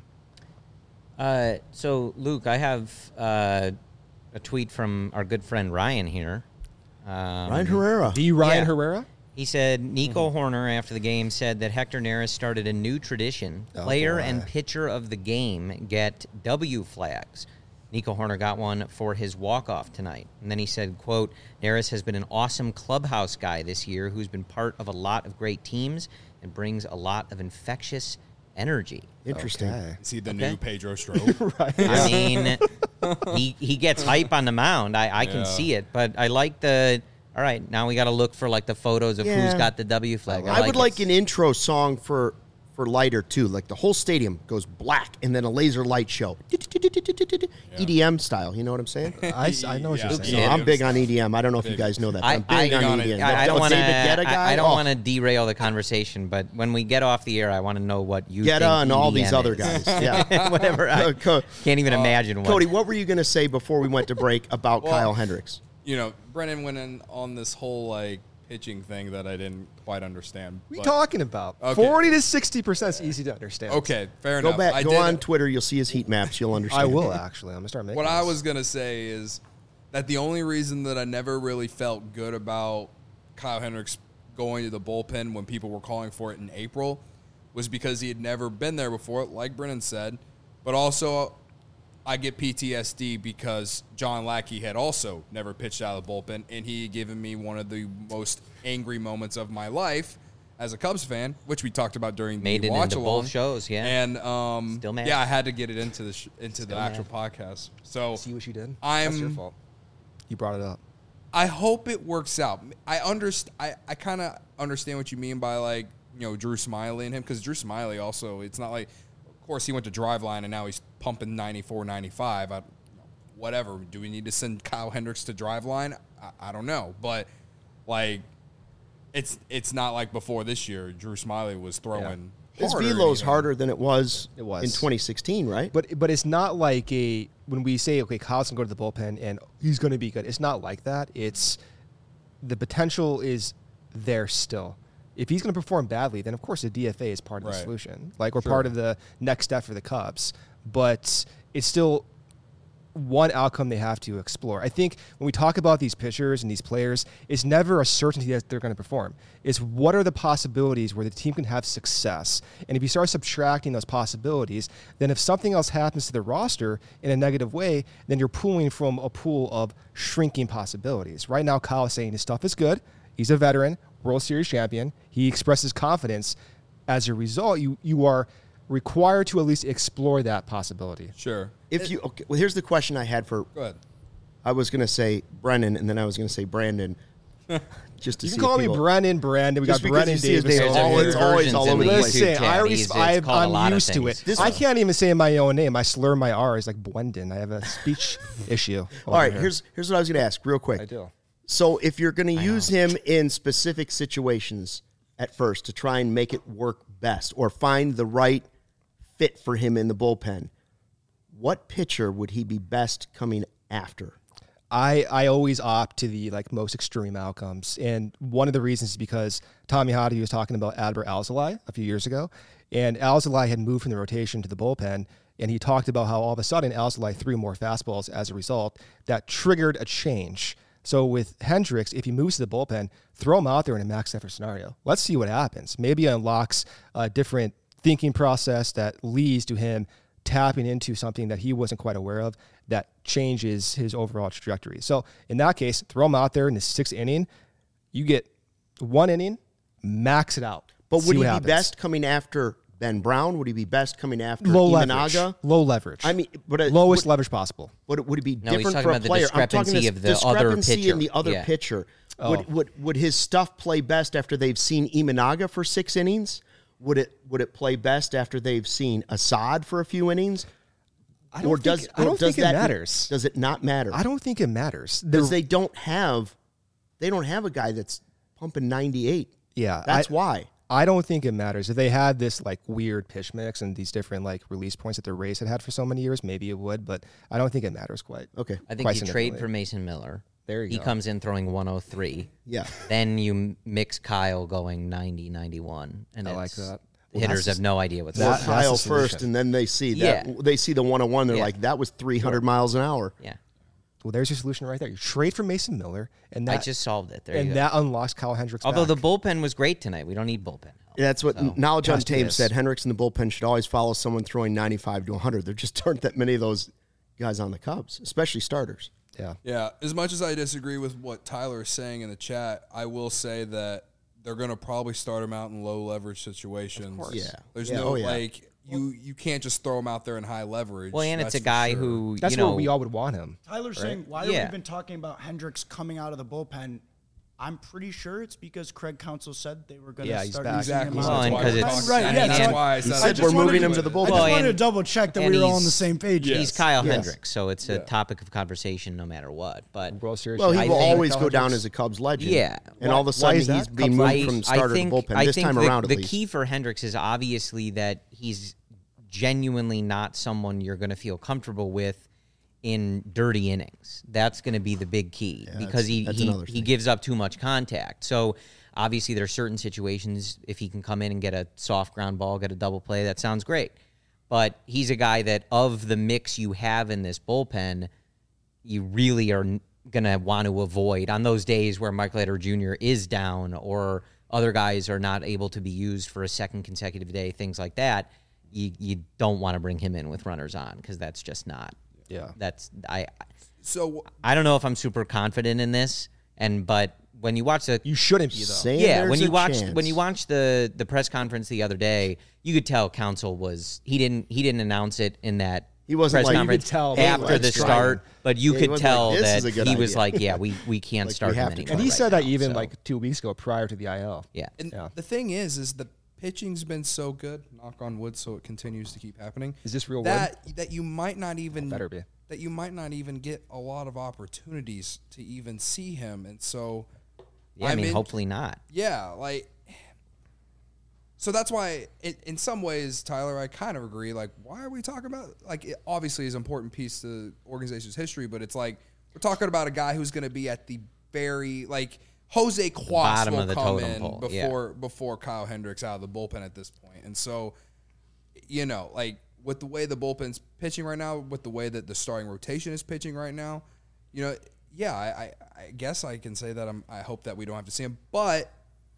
Uh, so, Luke, I have uh, a tweet from our good friend Ryan here. Um, Ryan Herrera. The Ryan Yeah. Herrera? He said Nico Horner, after the game, said that Hector Neris started a new tradition. Oh, Player boy. and pitcher of the game get W flags. Nico Horner got one for his walk-off tonight. And then he said, quote, Neris has been an awesome clubhouse guy this year who's been part of a lot of great teams and brings a lot of infectious energy. Interesting. Okay. Is he the Okay. new Pedro Strove? Right. I mean, he he gets hype on the mound. I, I can Yeah. see it. But I like the, all right, now we got to look for like the photos of who's Yeah. got the W flag. I, would it. like an intro song for for lighter too. Like the whole stadium goes black and then a laser light show. E D M style. You know what I'm saying? I, I know what Yeah. you're So saying. Yeah. I'm big on E D M. I don't know if you guys know that. But I, I'm I, big on on E D it. M. I, I That don't want to. David Guetta guy. I, I don't Oh, want to derail the conversation, but when we get off the air, I want to know what you Guetta think and all these E D M other is. guys. Yeah. Whatever. I Uh, Co- can't even imagine what. Cody, what were you going to say before we went to break about Well, Kyle Hendricks? You know, Brennan went in on this whole like pitching thing that I didn't quite understand. What are you but- talking about? Okay. forty to sixty percent is easy to understand. Okay, fair Go enough. back. I Go did- on Twitter. You'll see his heat maps. You'll understand. I will, actually. I'm going to start making What I this. was gonna say is that the only reason that I never really felt good about Kyle Hendricks going to the bullpen when people were calling for it in April was because he had never been there before, like Brennan said, but also I get P T S D because John Lackey had also never pitched out of the bullpen, and he had given me one of the most angry moments of my life as a Cubs fan, which we talked about during Made the it watch into along. both shows, yeah. And um, Still mad. yeah, I had to get it into the sh- into the Still actual mad. podcast. So See what you did? I'm- That's your fault. You brought it up. I hope it works out. I underst- I, I kind of understand what you mean by like you know Drew Smiley and him because Drew Smiley also it's not like of course he went to Driveline and now he's pumping ninety-four, ninety-five. I, whatever. Do we need to send Kyle Hendricks to Driveline? I, I don't know, but like it's it's not like before this year. Drew Smiley was throwing. His harder velo's even. harder than it was, It was. in twenty sixteen, right? But but it's not like a when we say okay, Kyle's gonna go to the bullpen and he's gonna be good. It's not like that. It's the potential is there still. If he's gonna perform badly, then of course the D F A is part of the Right. solution. Like we're Sure. part of the next step for the Cubs. But it's still one outcome they have to explore. I think when we talk about these pitchers and these players, it's never a certainty that they're going to perform. It's what are the possibilities where the team can have success. And if you start subtracting those possibilities, then if something else happens to the roster in a negative way, then you're pulling from a pool of shrinking possibilities. Right now, Kyle is saying his stuff is good. He's a veteran, World Series champion. He expresses confidence. As a result, you you are required to at least explore that possibility. Sure. If you okay, well, here's the question I had for. Go ahead. I was going to say Brennan, and then I was going to say Brandon, just to You see can call if me people- Brandon. Brandon. We Just got because Brennan you see his Davis. name, all it's over always- it. always all over the place. Listen, I He's- res- it's I've, called a lot I'm of used to things. it. This- I can't even say my own name. I slur my R's like Bwendon. I have a speech issue. All right, here's here's what I was going to ask, real quick. I do. So if you're going to use him in specific situations at first to try and make it work best, or find the right fit for him in the bullpen, what pitcher would he be best coming after? I, I always opt to the like most extreme outcomes. And one of the reasons is because Tommy Hottie was talking about Adbert Alzolay a few years ago. And Alzolay had moved from the rotation to the bullpen. And he talked about how all of a sudden Alzolay threw more fastballs as a result. That triggered a change. So with Hendricks, if he moves to the bullpen, throw him out there in a max effort scenario. Let's see what happens. Maybe it unlocks a different thinking process that leads to him tapping into something that he wasn't quite aware of that changes his overall trajectory. So in that case, throw him out there in the sixth inning. You get one inning, max it out. But See would he what be happens. best coming after Ben Brown? Would he be best coming after low Imanaga? leverage? Low leverage. I mean, but it, lowest would, leverage possible. would, it, would it be No, he's different talking for a about the player? I'm talking discrepancy this of the other discrepancy pitcher. in the other Yeah. pitcher. Oh. Would, would would his stuff play best after they've seen Imanaga for six innings? Would it would it play best after they've seen Assad for a few innings? I don't or think, does I or don't does think it that matters. Does it not matter? I don't think it matters. Because The- they don't have they don't have a guy that's pumping ninety-eight. yeah, That's I, why. I don't think it matters. If they had this like weird pitch mix and these different like release points that the Rays had had for so many years, maybe it would, but I don't think it matters quite. Okay. I think Quite you trade significantly. for Mason Miller. There you he go. comes in throwing one oh three. Yeah. Then you m- mix Kyle going ninety, ninety-one. And I like it's- Well, that. The hitters that's have no idea what's Or That- happening. that's Kyle the solution. first, and then they see that Yeah. they see the one on one. They're Yeah. like, that was three hundred miles an hour. Yeah. Well, there's your solution right there. You trade for Mason Miller, and that I just solved it. There you and go. that unlocks Kyle Hendricks. Although back. the bullpen was great tonight. We don't need bullpen help. That's what So- Knowledge on Just Tape is. said. Hendricks in the bullpen should always follow someone throwing ninety-five to one hundred. There just aren't that many of those guys on the Cubs, especially starters. Yeah. Yeah, as much as I disagree with what Tyler is saying in the chat, I will say that they're going to probably start him out in low leverage situations. course. Yeah. There's Yeah, no oh, yeah. like you you can't just throw him out there in high leverage. Well, and that's it's a for guy sure. who That's you know where we all would want him. Tyler's saying, why Yeah. have we been talking about Hendricks coming out of the bullpen? I'm pretty sure it's because Craig Counsell said they were going to Yeah, he's start back. using Exactly. him Well, out and of the 'cause bullpen. it's- right. I Yeah, mean, that's and- why I He said said just we're wanted moving to- him to the I bullpen. just Well, wanted to and- double check that and we were all on he's- the same page. Yes. he's Kyle Yes. Hendricks, so it's a Yeah. topic of conversation no matter what. But World Series. Well, he I will think- always go down as a Cubs legend. Yeah. And Why- all of a why sudden, is that? he's being Cubs moved legend? from starter think, to bullpen I this think time the, around, at the least. key for Hendricks is obviously that he's genuinely not someone you're going to feel comfortable with in dirty innings. That's going to be the big key Yeah, because he that's- that's he, another he thing. gives up too much contact. So obviously there are certain situations if he can come in and get a soft ground ball, get a double play, that sounds great. But he's a guy that of the mix you have in this bullpen, you really are going to want to avoid on those days where Mike Leiter Junior is down or other guys are not able to be used for a second consecutive day, things like that. You you don't want to bring him in with runners on because that's just not. Yeah. That's I. So I don't know if I'm super confident in this, and but when you watch the You shouldn't be, though. Saying yeah there's when a you watch chance. when you watch the the press conference the other day, you could tell Counsell was he didn't he didn't announce it in that He wasn't press like- you could conference tell, hey, after let's the try start, him. but you Yeah, he could wasn't tell like, "This that is a good he was idea." like, yeah, we we can't Like, start we him have to anymore. go. And he right said that now, even so, like two weeks ago prior to the I L. yeah. And Yeah. the thing is, is the pitching's been so good, knock on wood, so it continues to keep happening. Is this real wood? that that you might not even Better be. that you might not even get a lot of opportunities to even see him, and so Yeah, I I'm mean, in- hopefully not. yeah, like. So that's why, it, in some ways, Tyler, I kind of agree. Like, why are we talking about? Like, it obviously is an important piece to the organization's history, but it's like we're talking about a guy who's going to be at the very like Jose Quas bottom will of the come totem in pole, before yeah. before Kyle Hendricks out of the bullpen at this point, and so you know, like with the way the bullpen's pitching right now, with the way that the starting rotation is pitching right now, you know, yeah, I, I, I guess I can say that I'm. I hope that we don't have to see him, but.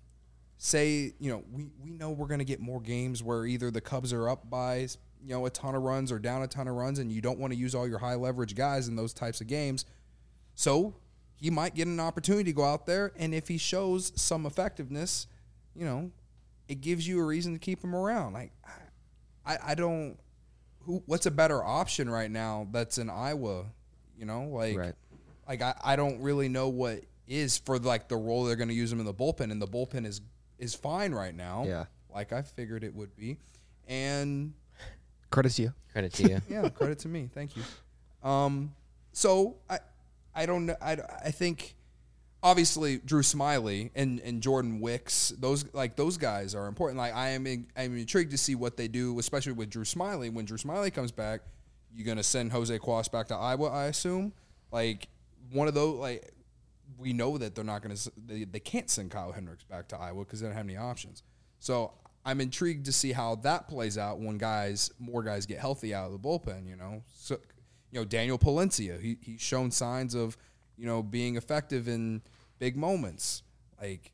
Say, you know, we, we know we're going to get more games where either the Cubs are up by, you know, a ton of runs or down a ton of runs, and you don't want to use all your high leverage guys in those types of games. So he might get an opportunity to go out there, and if he shows some effectiveness, you know, it gives you a reason to keep him around. Like, I, I don't, who, what's a better option right now that's in Iowa, you know, like, Right. like I, I don't really know what is for like the role they're going to use him in the bullpen, and the bullpen is is fine right now. Yeah. Like I figured it would be. And Credit to you. Credit to you. yeah, credit to me. Thank you. Um, so I I don't know. I, I think obviously Drew Smiley and, and Jordan Wicks, those like those guys are important. Like I am in, I'm intrigued to see what they do, especially with Drew Smiley. When Drew Smiley comes back, you're gonna send Jose Quas back to Iowa, I assume. Like one of those like we know that they're not going to, they, they can't send Kyle Hendricks back to Iowa because they don't have any options. So I'm intrigued to see how that plays out when guys, more guys get healthy out of the bullpen, you know. So, you know, Daniel Palencia, he, he's shown signs of, you know, being effective in big moments. Like,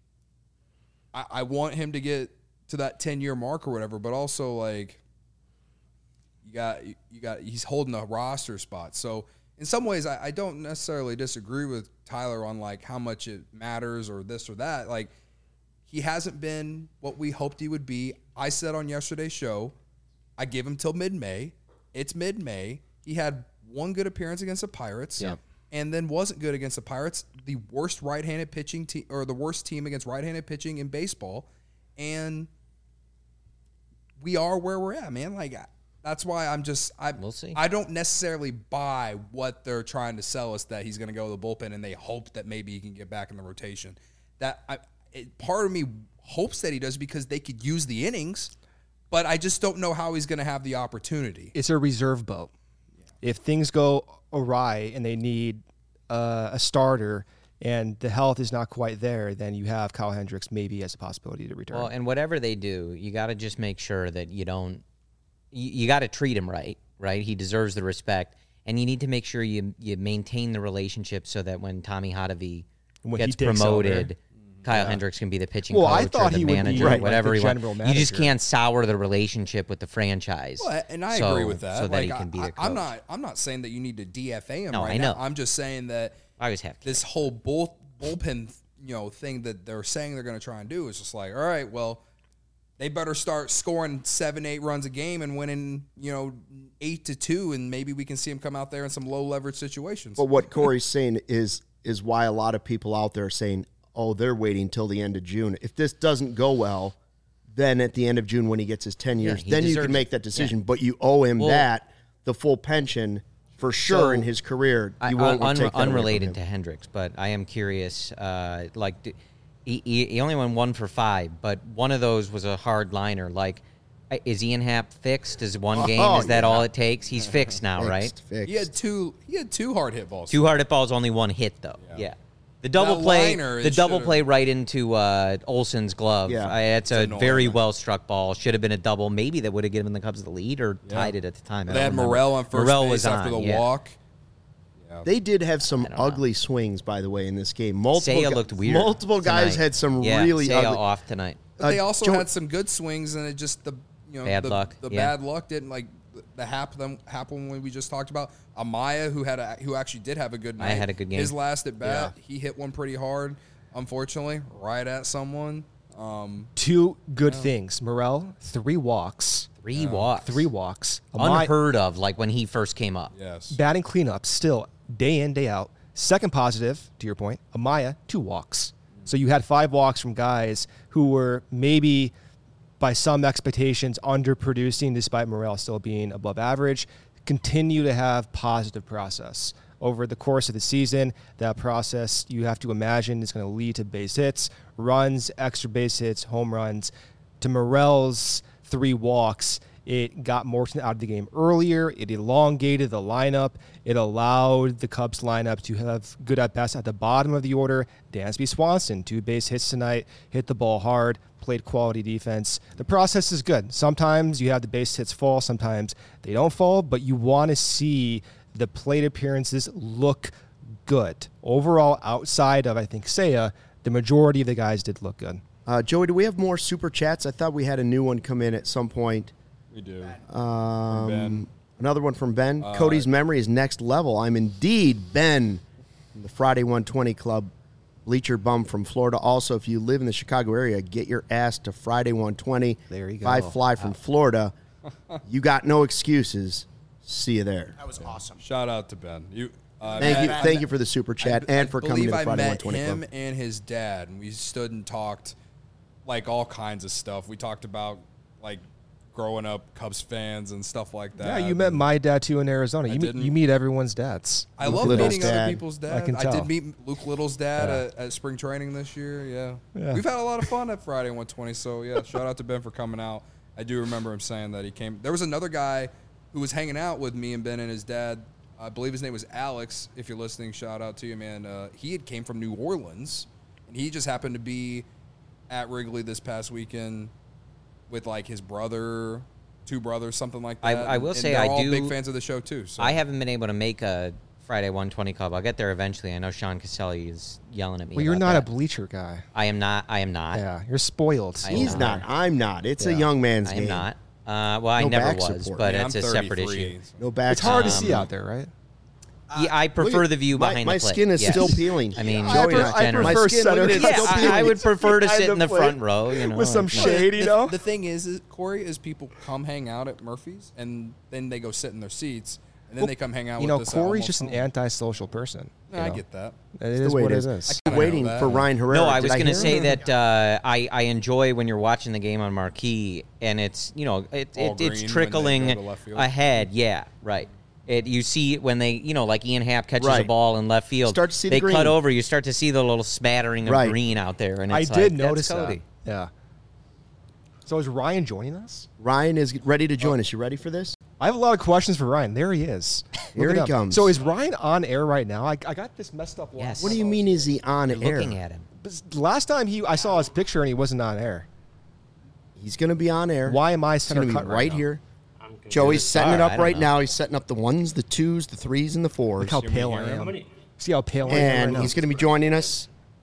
I, I want him to get to that ten-year mark or whatever, but also, like, you got, you got, he's holding a roster spot. So, in some ways, I, I don't necessarily disagree with Tyler on like how much it matters or this or that. Like he hasn't been what we hoped he would be. I said on yesterday's show, I give him till mid-May. It's mid-May. He had one good appearance against the Pirates, Yeah. and then wasn't good against the Pirates. The worst right-handed pitching team or the worst team against right-handed pitching in baseball, and we are where we're at, man. Like. That's why I'm just I We'll see. I don't necessarily buy what they're trying to sell us that he's going to go to the bullpen and they hope that maybe he can get back in the rotation. That I, it, part of me hopes that he does because they could use the innings, but I just don't know how he's going to have the opportunity. It's a reserve boat. If things go awry and they need uh, a starter and the health is not quite there, then you have Kyle Hendricks maybe as a possibility to return. Well, and whatever they do, you got to just make sure that you don't. You, you got to treat him right, right? He deserves the respect, and you need to make sure you you maintain the relationship so that when Tommy Hotovy When he gets takes promoted, Kyle Yeah. Hendricks can be the pitching Well, coach I thought or the he would be, manager, right, whatever like the he wants. general You just manager. can't sour the relationship with the franchise. Well, and I so- agree with that. So that like, he can be I, the I'm coach. not. I'm not saying that you need to D F A him No, right I know. now. I'm just saying that I always have. this whole bull, bullpen, you know, thing that they're saying they're going to try and do is just like, all right, well, they better start scoring seven, eight runs a game and winning, you know, eight to two, and maybe we can see them come out there in some low leverage situations. But what Corey's saying is is why a lot of people out there are saying, oh, they're waiting till the end of June. If this doesn't go well, then at the end of June when he gets his ten years, he then you deserves can make it. that decision. Yeah. But you owe him Well- that, the full pension, for sure So, in his career. I- You won't un- take that away from unrelated him. to Hendricks, but I am curious. Uh, like, d- he, he he only won one for five, but one of those was a hard liner. Like, uh, is Ian Happ fixed? Is one game? Oh, Is that yeah. all it takes? He's fixed now, right? Fixed, fixed. he had two. He had two hard hit balls. Two hard hit balls, only one hit though. Yeah. Yeah. The double That play, liner, the it double should've- play right into uh, Olsen's glove. Yeah. I, it's a annoying. very well struck ball. Should have been a double. Maybe that would have given the Cubs the lead or tied it at the time. I They don't had remember. Morel on first Morel base was after on, the yeah. walk. They did have some don't know. ugly swings, by the way, in this game. Multiple Seiya gu- looked weird. Multiple guys tonight. had some yeah, really Seiya ugly. off tonight. But they Uh, also Joe- had some good swings, and it just the you know Bad the, luck, The yeah. bad luck didn't like the hap them happen when we just talked about Amaya, who had a, who actually did have a good night. Amaya had a good game. His last at bat, he hit one pretty hard, unfortunately, right at someone. Um, Two good things. Morel, three walks. Three walks. Three walks. Amaya- Unheard of, like when he first came up. yes, batting cleanup still day in, day out. Second positive, to your point, Amaya, two walks. So you had five walks from guys who were maybe by some expectations underproducing despite Morel still being above average. Continue to have positive process. Over the course of the season, that process you have to imagine is going to lead to base hits, runs, extra base hits, home runs. To Morel's three walks, it got Morton out of the game earlier. It elongated the lineup. It allowed the Cubs lineup to have good at-bats at the bottom of the order. Dansby Swanson, two base hits tonight, hit the ball hard, played quality defense. The process is good. Sometimes you have the base hits fall, sometimes they don't fall, but you want to see the plate appearances look good. Overall, outside of, I think, Seiya, the majority of the guys did look good. Uh, Joey, do we have more super chats? I thought we had a new one come in at some point. we do. Um, Ben. Another one from Ben. Cody's memory is next level. I'm indeed Ben from the Friday one twenty Club, bleacher bum from Florida. Also, if you live in the Chicago area, get your ass to Friday one twenty. There you If I go. fly from Florida, you got no excuses. See you there. That was awesome. Shout out to Ben. You. Uh, Thank you, met- thank you for the super chat I- and I for coming to believe the I Friday met one twenty him Club. and his dad, and we stood and talked like all kinds of stuff. We talked about like growing up Cubs fans and stuff like that. Yeah, you met my dad too in Arizona. I You meet, didn't. you meet everyone's dads. I Luke love Little's meeting dad. other people's dad. I can tell. did meet Luke Little's dad Yeah. at, at spring training this year. Yeah. Yeah. We've had a lot of fun at Friday one twenty. So yeah, shout out to Ben for coming out. I do remember him saying that he came. There was another guy who was hanging out with me and Ben and his dad. I believe his name was Alex. If you're listening, shout out to you, man. Uh, he had came from New Orleans, and he just happened to be at Wrigley this past weekend with like his brother, two brothers, something like I- that. I will And say they're I all do- big fans of the show too. So. I haven't been able to make a Friday one twenty Club. I'll get there eventually. I know Sean Caselli is yelling at me. Well, you're about not that. a bleacher guy. I am not. I am not. Yeah, you're spoiled. I am He's not. not. I'm not. It's a Yeah. young man's I game. am not. Uh, well, I No never back was, support. but Yeah, it's I'm a separate thirty-three, issue. so- No back. It's hard to Um, see out there, right? Yeah, I prefer at- the view my- behind my the plate. skin is Yes. still peeling. I mean, Yeah. I, Joey pre- and I- I generous. prefer My skin, center. look at it, Yeah, it's still I, I peeling. would prefer to Behind sit in the plate front row. You know, with some like- shade, you the, know? The thing is, is, Corey, is people come hang out at Murphy's and then they go sit in their seats and then Well, they come hang out You with know, us. at Corey's almost just an home. antisocial person. Yeah, you I know? get that. It It's is the way what it it is. is. kinda Waiting know that. for Ryan Herrera. No, I Did was going to hear say him? that uh, I I enjoy when you're watching the game on marquee and it's you know it, All it green it's when they trickling go to left field. ahead. Yeah, right. It you see it when they you know like Ian Happ catches a Right. ball in left field. Start to see the they green. cut over. You start to see the little smattering of Right. green out there, and I it's did like, notice that's that. Cody. Yeah. So is Ryan joining us? Ryan is ready to join us. You ready for this? I have a lot of questions for Ryan. There he is. Here Look he at him. comes. So is Ryan on air right now? I, I got this messed up. Yes. What do you mean? Is he on You're air? looking at him. Last time he, I saw his picture and he wasn't on air. He's going to be on air. Why am I He's center going to be cut right, right now? here. Joey's setting it All right, up I don't right know. now. He's setting up the ones, the twos, the threes, and the fours. Look how Can we pale I hear him? am. How many- See how pale I am And right now? he's going to be joining us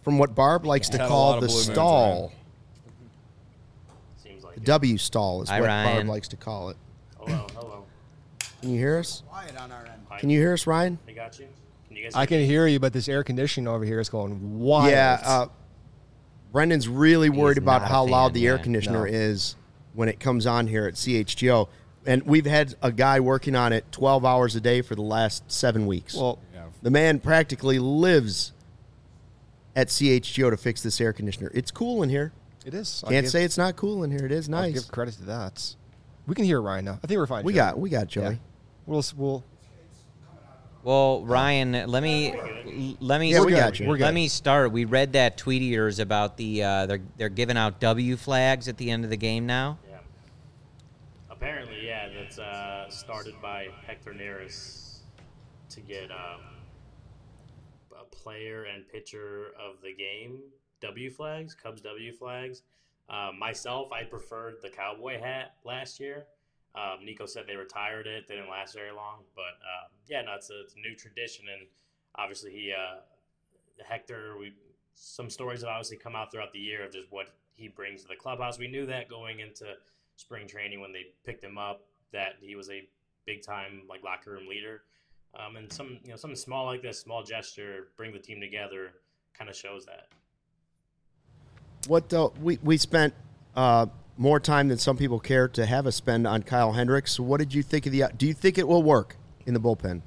from what Barb likes to Had a call lot of the blue moons, stall. Seems like The it. W stall is Hi, what Ryan. Barb likes to call it. Hello, hello. Can you hear us? Quiet on our end. Can you hear us, Ryan? I got you. Can you guys? I can hear you, but this air conditioning over here is going wild. Yeah. Uh, Brendan's really worried He's about not a how loud fan, the air yeah. conditioner No. is when it comes on here at C H G O. And we've had a guy working on it twelve hours a day for the last seven weeks. Well, Yeah. The man practically lives at C H G O to fix this air conditioner. It's cool in here. it is. Can't say it's not cool in here. It is I'll nice. give credit to that. We can hear Ryan now. I think we're fine. We Joey. got we got Joey. Yeah. We'll we'll. Well, Ryan, let me let me Yeah, we good. got you. We're good. let me start. We read that tweet of yours about the uh, they're they're giving out W flags at the end of the game now. Yeah. Apparently, yeah, that's uh, started by Hector Neris to get um, a player and pitcher of the game W flags, Cubs W flags. Uh, myself, I preferred the cowboy hat last year. Um, Nico said they retired it; they didn't last very long. But uh, yeah, no, it's a, it's a new tradition, and obviously he uh, Hector. We some stories have obviously come out throughout the year of just what he brings to the clubhouse. We knew that going into spring training when they picked him up, that he was a big time like locker room leader. Um, and some you know something small like this, small gesture, bring the team together, kind of shows that. What uh, we we spent uh, more time than some people care to have us spend on Kyle Hendricks. What did you think of the? Do you think it will work in the bullpen?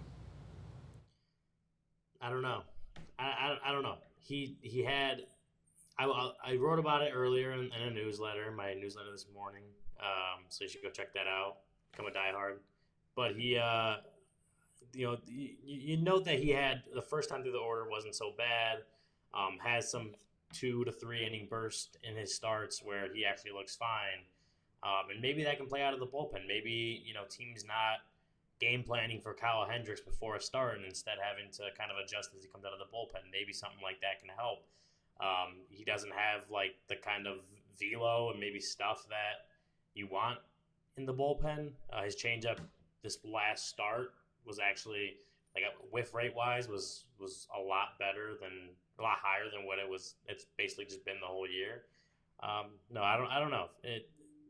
I don't know. I, I, I don't know. He he had. I, I wrote about it earlier in, in a newsletter, my newsletter this morning. Um, so you should go check that out. Become a diehard. But he, uh, you know, you, you note that he had the first time through the order wasn't so bad. Um, has some two to three inning burst in his starts where he actually looks fine. Um, and maybe that can play out of the bullpen. Maybe, you know, teams not game planning for Kyle Hendricks before a start and instead having to kind of adjust as he comes out of the bullpen. Maybe something like that can help. Um, he doesn't have like the kind of velo and maybe stuff that you want in the bullpen. Uh, his changeup this last start was actually like whiff rate wise was was a lot better than a lot higher than what it was. It's basically just been the whole year. Um, no, I don't. I don't know. It.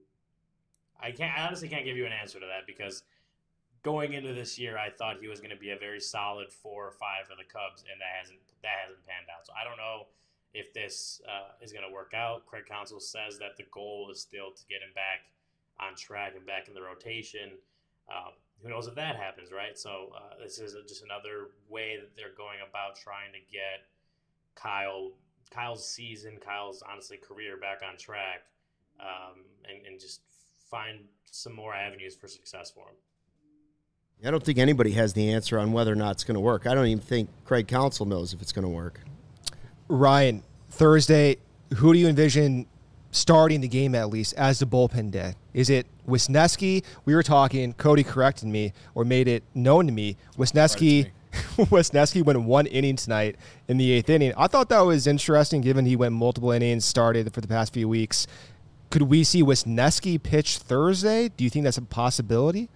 I can't. I honestly can't give you an answer to that because going into this year, I thought he was going to be a very solid four or five for the Cubs, and that hasn't that hasn't panned out. So I don't know if this uh, is going to work out. Craig Counsell says that the goal is still to get him back on track and back in the rotation. Um, who knows if that happens, right? So uh, this is a, just another way that they're going about trying to get Kyle, Kyle's season, Kyle's honestly career back on track, um, and, and just find some more avenues for success for him. I don't think anybody has the answer on whether or not it's going to work. I don't even think Craig Counsell knows if it's going to work. Ryan, Thursday, who do you envision starting the game at least as the bullpen day? Is it Wisniewski? We were talking, Cody corrected me or made it known to me. Wisniewski, Wisniewski went one inning tonight in the eighth inning. I thought that was interesting given he went multiple innings, started for the past few weeks. Could we see Wisniewski pitch Thursday? Do you think that's a possibility?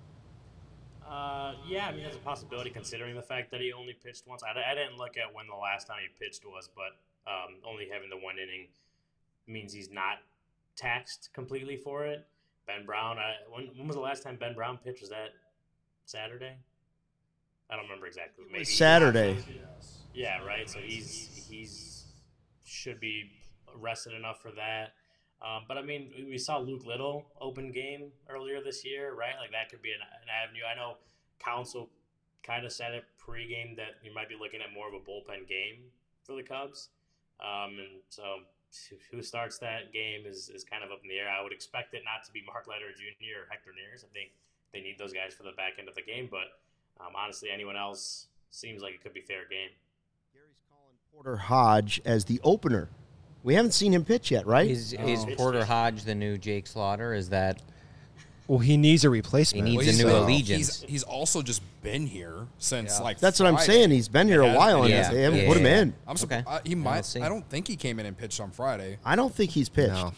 Uh, yeah, I mean, there's a possibility considering the fact that he only pitched once. I, I didn't look at when the last time he pitched was, but um, only having the one inning means he's not taxed completely for it. Ben Brown, I, when, when was the last time Ben Brown pitched? Was that Saturday? I don't remember exactly. Maybe Saturday. Yeah, right. So he's he's should be rested enough for that. Um, but I mean, we saw Luke Little open game earlier this year, right? Like that could be an, an avenue. I know Counsell kind of said it pregame that you might be looking at more of a bullpen game for the Cubs. Um, and so who starts that game is, is kind of up in the air. I would expect it not to be Mark Leiter Junior or Hector Neris. I think they need those guys for the back end of the game. But um, honestly, anyone else seems like it could be fair game. Gary's calling Porter Hodge as the opener. We haven't seen him pitch yet, right? Is is Porter Hodge the new Jake Slaughter? Is that Well, he needs a replacement. He needs Well, a he's, new uh, allegiance. He's, he's also just been here since Yeah. like That's what I'm Friday. saying. He's been here a Yeah. while, and Yeah. they haven't Yeah, put him yeah. in. I'm Okay. surprised. He Yeah, might. we'll see. I don't think he came in and pitched on Friday. I don't think he's pitched. No.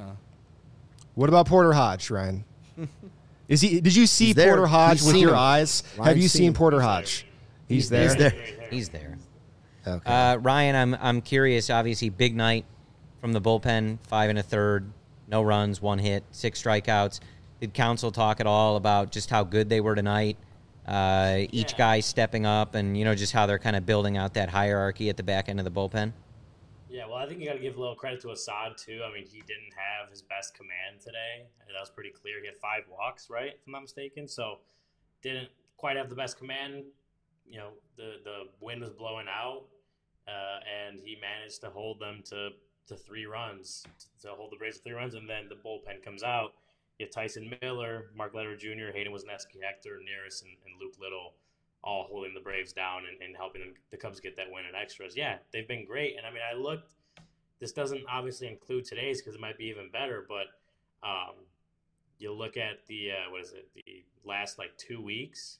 What about Porter Hodge, Ryan? Is he? Did you see He's there. Porter Hodge He's with seen your him. eyes? Ryan's Have you seen seen him. Porter Hodge? He's there. He's there. He's there. Okay. Uh, Ryan, I'm I'm curious. Obviously, big night from the bullpen. Five and a third, no runs, one hit, six strikeouts. Did Counsell talk at all about just how good they were tonight? Uh, each Yeah. guy stepping up, and you know just how they're kind of building out that hierarchy at the back end of the bullpen. Yeah, well, I think you got to give a little credit to Assad too. I mean, he didn't have his best command today. That was pretty clear. He had five walks, right, if I'm not mistaken. So didn't quite have the best command. You know, the the wind was blowing out, uh, and he managed to hold them to to three runs, to hold the Braves to three runs, and then the bullpen comes out. You have Tyson Miller, Mark Leonard Junior, Hayden Wesneski, Hector Neris, and, and Luke Little, all holding the Braves down and, and helping them, the Cubs get that win in extras. Yeah, they've been great. And I mean, I looked, this doesn't obviously include today's because it might be even better, but um, you look at the, uh, what is it, the last like two weeks.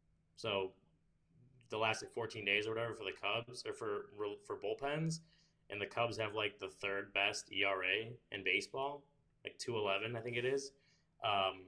So the last like fourteen days or whatever for the Cubs or for, for bullpens. And the Cubs have like the third best E R A in baseball, like two eleven, I think it is. Um,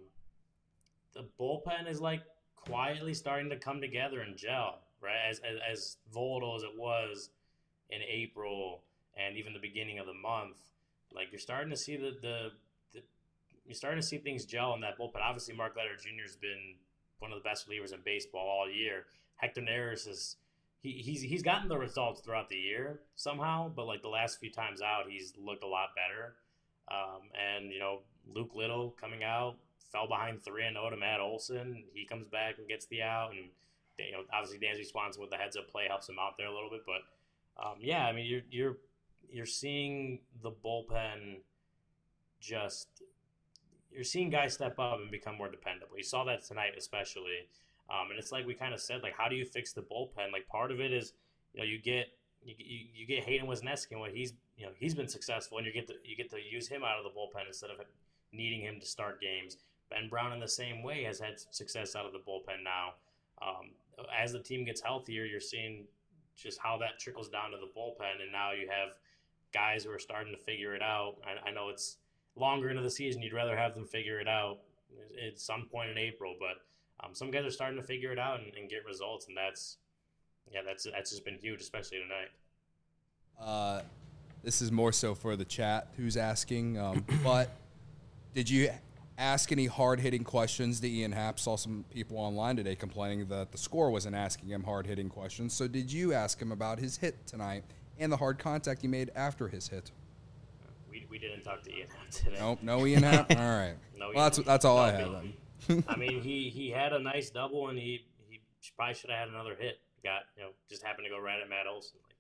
the bullpen is like, quietly starting to come together and gel, right? As, as as volatile as it was in April and even the beginning of the month, like you're starting to see the the, the you're starting to see things gel in that bullpen. Obviously, Mark Leonard Junior has been one of the best relievers in baseball all year. Hector Neris is he, he's he's gotten the results throughout the year somehow, but like the last few times out, he's looked a lot better. Um, and you know, Luke Little coming out. Fell behind three and oh to Matt Olson. He comes back and gets the out, and you know, obviously Dansby Swanson with the heads up play helps him out there a little bit. But um, yeah, I mean, you're you're you're seeing the bullpen just you're seeing guys step up and become more dependable. You saw that tonight, especially, um, and it's like we kind of said, like, how do you fix the bullpen? Like, part of it is, you know, you get you you, you get Hayden Wesneski, and what he's you know he's been successful, and you get to you get to use him out of the bullpen instead of needing him to start games. Ben Brown, in the same way, has had success out of the bullpen now. Um, as the team gets healthier, you're seeing just how that trickles down to the bullpen, and now you have guys who are starting to figure it out. I, I know it's longer into the season. You'd rather have them figure it out at some point in April, but um, some guys are starting to figure it out and, and get results, and that's yeah, that's that's just been huge, especially tonight. Uh, this is more so for the chat who's asking, um, but did you ask any hard-hitting questions to Ian Happ? Saw some people online today complaining that the score wasn't asking him hard-hitting questions. So did you ask him about his hit tonight and the hard contact he made after his hit? We, we didn't talk to Ian Happ today. Nope, no Ian Happ? All right. No, Well, that's that's all no, I have then. I mean, he, he had a nice double, and he, he probably should have had another hit. Got you know, just happened to go right at Matt Olson. Like,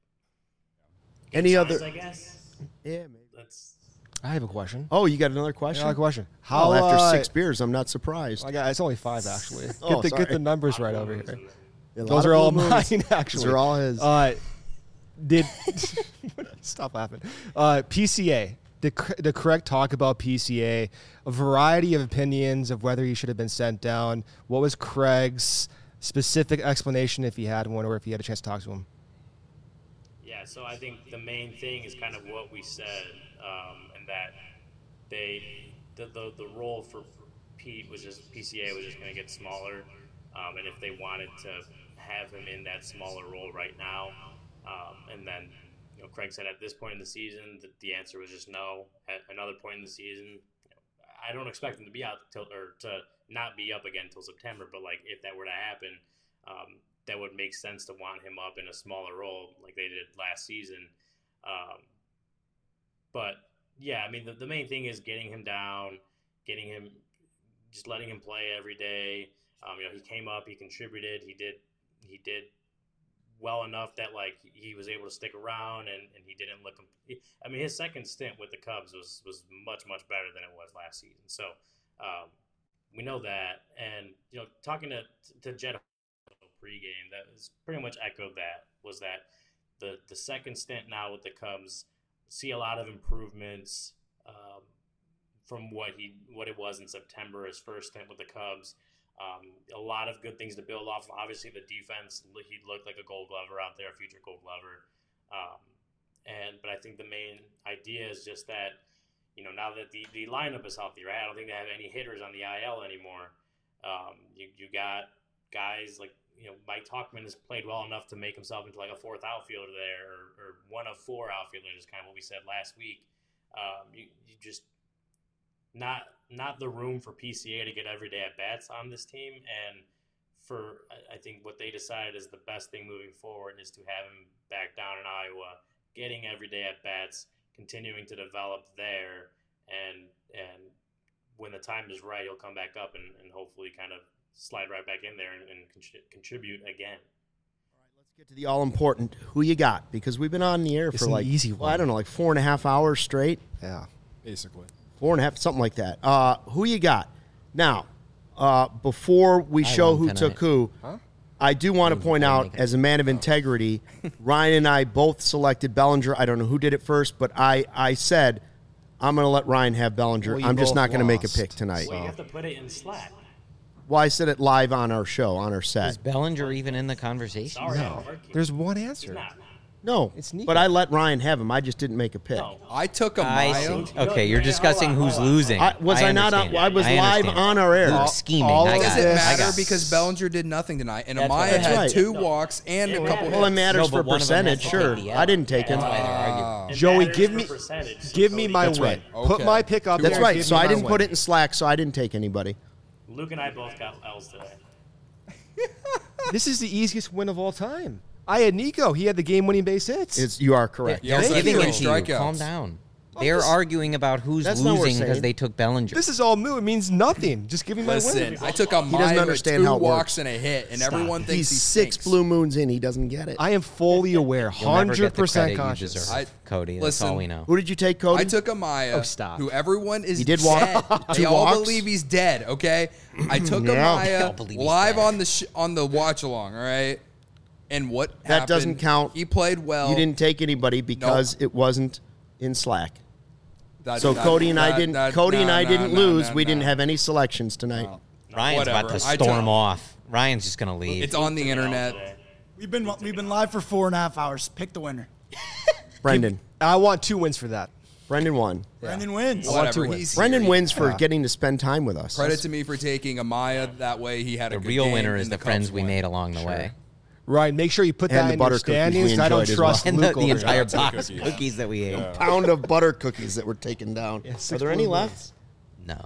Any signs, other? I guess. Yeah, maybe. That's I have a question. Oh, you got another question? Another question. How How after uh, six beers, I'm not surprised. I got, it's only five actually. Get Oh, the sorry. get the numbers a lot right of over moves here. in there. A lot Those of are all blue mine moons. actually. Those are all his. Uh, did stop laughing? Uh, P C A. Did, did Craig talk about P C A? A variety of opinions of whether he should have been sent down. What was Craig's specific explanation, if he had one, or if he had a chance to talk to him? Yeah, so I think the main thing is kind of what we said, um, and that they the, the the role for Pete was just P C A was just going to get smaller, um, and if they wanted to have him in that smaller role right now, um, and then you know Craig said at this point in the season that the answer was just no. At another point in the season, you know, I don't expect him to be out till or to not be up again until September, but like if that were to happen. Um, that would make sense to want him up in a smaller role like they did last season. Um, but, yeah, I mean, the, the main thing is getting him down, getting him, just letting him play every day. Um, you know, he came up, he contributed, he did he did well enough that, like, he was able to stick around and, and he didn't look – I mean, his second stint with the Cubs was, was much, much better than it was last season. So, um, we know that. And, you know, talking to, to Jed pregame that was pretty much echoed that was that the the second stint now with the Cubs see a lot of improvements um, from what he what it was in September, his first stint with the Cubs. Um, a lot of good things to build off of. Obviously the defense, he looked like a Gold Glover out there, a future Gold Glover. Um, and but I think the main idea is just that, you know, now that the, the lineup is healthy, right? I don't think they have any hitters on the I L anymore. Um, you you got guys like you know, Mike Talkman has played well enough to make himself into like a fourth outfielder there, or, or one of four outfielders, is kind of what we said last week. Um, you, you just not not the room for P C A to get everyday at bats on this team, and for I think what they decided is the best thing moving forward is to have him back down in Iowa, getting everyday at bats, continuing to develop there, and and when the time is right, he'll come back up and, and hopefully kind of slide right back in there and, and con- contribute again. All right, let's get to the all-important who you got, because we've been on the air It's for an like, easy well, one. I don't know, like four and a half hours straight. Yeah. Basically. Four and a half, something like that. Uh, who you got? Now, uh, before we I show won who tonight. took who, I do want to Who's point gonna out, make it? as a man of integrity, Ryan and I both selected Bellinger. I don't know who did it first, but I, I said, I'm going to let Ryan have Bellinger. Well, you I'm just both not going to make a lost. pick tonight. Well, you have to put it in Slack. Well, I said it live on our show, on our set. Is Bellinger even in the conversation? Sorry, No. Mark. There's one He's answer. not. No, It's Nico. but I let Ryan have him. I just didn't make a pick. No. I took a I Mayo. see. Okay, you're discussing who's losing. I, was I, not on? understand. I was I live understand. on our air. Luke's scheming. all I of got Does it. it this- I matter got it. because Bellinger did nothing tonight, and That's Amaya right. That's had right. two No. walks and It a couple matters. Well, it hits. matters No, for but one of them has percentage, to sure. take the I didn't take Yeah, him. that's why they're Ah. arguing. It Joey, matters give for me- percentage, so Give me Cody- my That's win. right. Put Okay. my pick up That's there. right. Give So me I my didn't win. put it in Slack, so I didn't take anybody. Luke and I both got L's today. This is the easiest win of all time. I had Nico. He had the game-winning base hits. It's, you are correct. Yeah, They're also had giving three it to you. strikeouts. Calm down. They're just- arguing about who's That's not what we're losing because saying. they took Bellinger. This is all moot. It means nothing. Just give me my Listen, win. I took a doesn't Mayo with understand two how it walks works. and a hit, and Stop. everyone thinks He's he six stinks. blue moons in. He doesn't get it. I am fully aware, You'll never hundred get the percent credit you conscious. deserve, I- Cody. That's listen, all we know. Who did you take, Cody? I took Amaya, Oh, stop. who everyone is He did walk- dead. two They all walks? believe he's dead. Okay, I took Yeah. They all Amaya believe he's live dead. on the sh- on the watch along. All right, and what That happened, doesn't count. He played well. You didn't take anybody because it wasn't in Slack. That- So that- Cody and I that- didn't. that- Cody and nah, I nah, didn't nah, lose. nah, we didn't nah. have any selections tonight. Ryan's about to whatever. I storm took- off. Ryan's just gonna leave. It's on the internet. Today. We've been we've been live for four and a half hours. Pick the winner. Brendan. I want two wins for that. Brendan won. Brendan wins. I want Whatever. two wins. He's Brendan here. wins for Yeah. getting to spend time with us. Credit to me for taking Amaya. That way, he had a the good real game, winner and is the Cubs friends we won. made along the way. Ryan, make sure you put And that the in butter your cookies we standings. I don't enjoyed as trust And Luke the, the over entire there. box of cookies that we ate. Pound of butter cookies that were taken down. Yeah, Are six there any blue left? moons. No.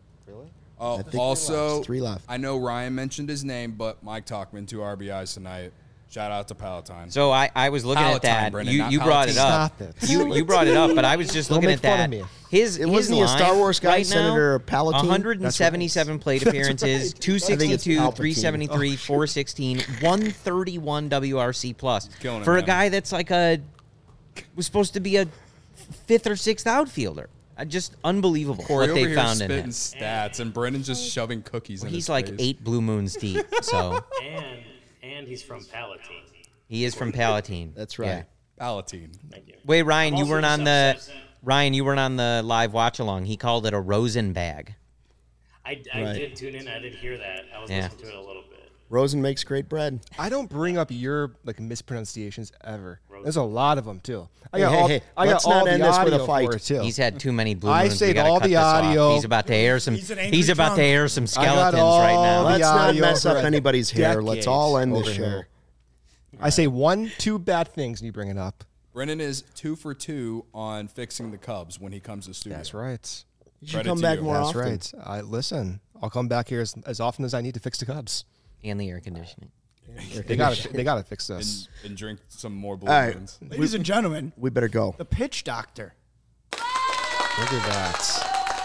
Oh, I think also, there's three left. I know Ryan mentioned his name, but Mike Talkman, two R B Is tonight. Shout out to Palatine. So I, I was looking Palatine, at that. Brendan, you not you brought it Palatine. up. Stop it. You you brought it up, but I was just Don't looking make at fun that. of me. His It his wasn't he a line Star Wars guy, right Senator now, Palatine? one hundred seventy-seven plate appearances, two sixty-two, Palpatine. three seventy-three, four sixteen, one thirty-one W R C plus. killing it, For a man. guy that's like a was supposed to be a fifth or sixth outfielder. Uh, Just unbelievable Corey what over they here found in spitting him. stats, and Brendan's just shoving cookies in He's his like face. eight blue moons deep, so And and he's from Palatine. he is from Palatine. That's right. Yeah. Palatine. Thank you. Wait, Ryan, I'm you also weren't just on the upset. Ryan, you weren't on the live watch along. He called it a Rosen bag. I, I Right. did tune in. I did hear that. I was Yeah. listening to it a little bit. Rosen makes great bread. I don't bring up your like mispronunciations ever. Rosen. There's a lot of them too. I Hey, got hey, all, hey, I got let's all not the end this with a audio fight. for it too. He's had too many blue I moons. We saved gotta all cut the this off. audio. He's about to air some. He's an angry He's about drunk. to air some I got skeletons all right now. the Let's not audio mess up for anybody's hair. Let's decades all end this over show. here. I say one, two bad things, and you bring it up. Brendan is two for two on fixing the Cubs when he comes to studio. That's right. You should Credit come to back you. more That's often. right. I listen. I'll come back here as, as often as I need to fix the Cubs. And the air conditioning. They got to. They got to fix this. And, and drink some more blue All right. moons. Ladies and gentlemen, We better go. the pitch doctor. Look at that.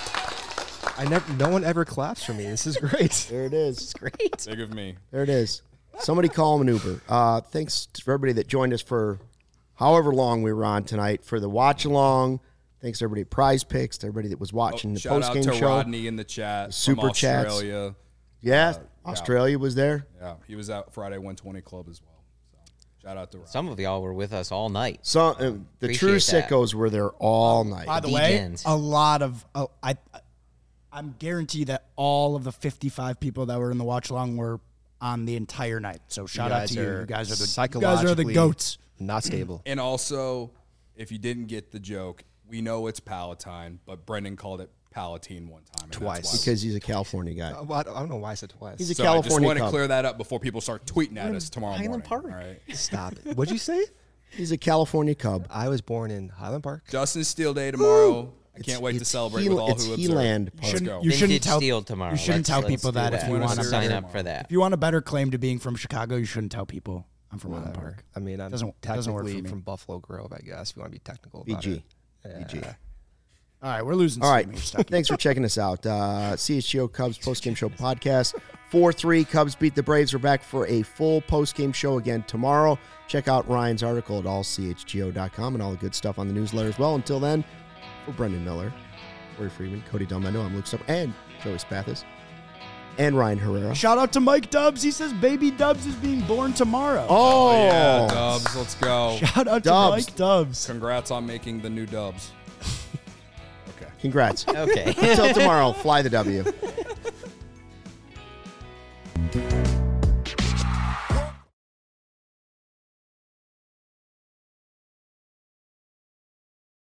Wow. I never. No one ever claps for me. This is great. There it is. Great. Big of me. There it is. Somebody call him an Uber. Uh, thanks to everybody that joined us for however long we were on tonight for the watch along. Thanks to everybody at Prize Picks, to everybody that was watching the Oh, Shout post out game to show. Rodney in the chat. Super from chats. Australia. Yeah, yeah. Australia was there. Yeah, he was at Friday one twenty Club as well. So shout out to Rodney. Some of y'all were with us all night. So uh, the true Appreciate that. sickos were there all night. By the D way, Gens. a lot of uh, I, I'm guaranteed that all of the fifty-five people that were in the watch along were on the entire night. So shout out to you. You guys are the you guys are the psychologically goats. Not stable. And also, if you didn't get the joke, we know it's Palatine, but Brendan called it Palatine one time. and Twice. that's why- Because he's a California guy. Uh, well, I don't I don't know why I said twice. He's a So I just California want to Cub. clear that up before people start tweeting at us tomorrow Highland morning. Park. All right. Stop it. What'd you say? He's a California Cub. I was born in Highland Park. Justin Steele Day tomorrow. I It's- can't wait to it's celebrate He- with all it's who He-Land observe. Park. Let's Shouldn't- go. you shouldn't Vintage tell- Steel tomorrow. you shouldn't Let's- tell let's people do that if you Winner want to. Series sign tomorrow. up for that. If you want a better claim to being from Chicago, you shouldn't tell people I'm from Highland Whatever. Park. I mean, I'm Doesn't- doesn't work for technically me. from Buffalo Grove, I guess, if you want to be technical about B G. it. B G. All right, we're losing. All right. steam here, Stucky. Thanks for checking us out. Uh, C H G O Cubs postgame show podcast. four three Cubs beat the Braves. We're back for a full postgame show again tomorrow. Check out Ryan's article at all c h g o dot com and all the good stuff on the newsletter as well. Until then, for Brendan Miller, Corey Freeman, Cody Delmendo, I'm Luke Stubb, and Joey Spathis, and Ryan Herrera. Shout out to Mike Dubs. He says baby Dubs is being born tomorrow. Oh, Oh, yeah, Dubs. Let's go. Shout out Dubs. to Mike Dubs. Congrats on making the new Dubs. Okay. Congrats. Okay. Until tomorrow, fly the W.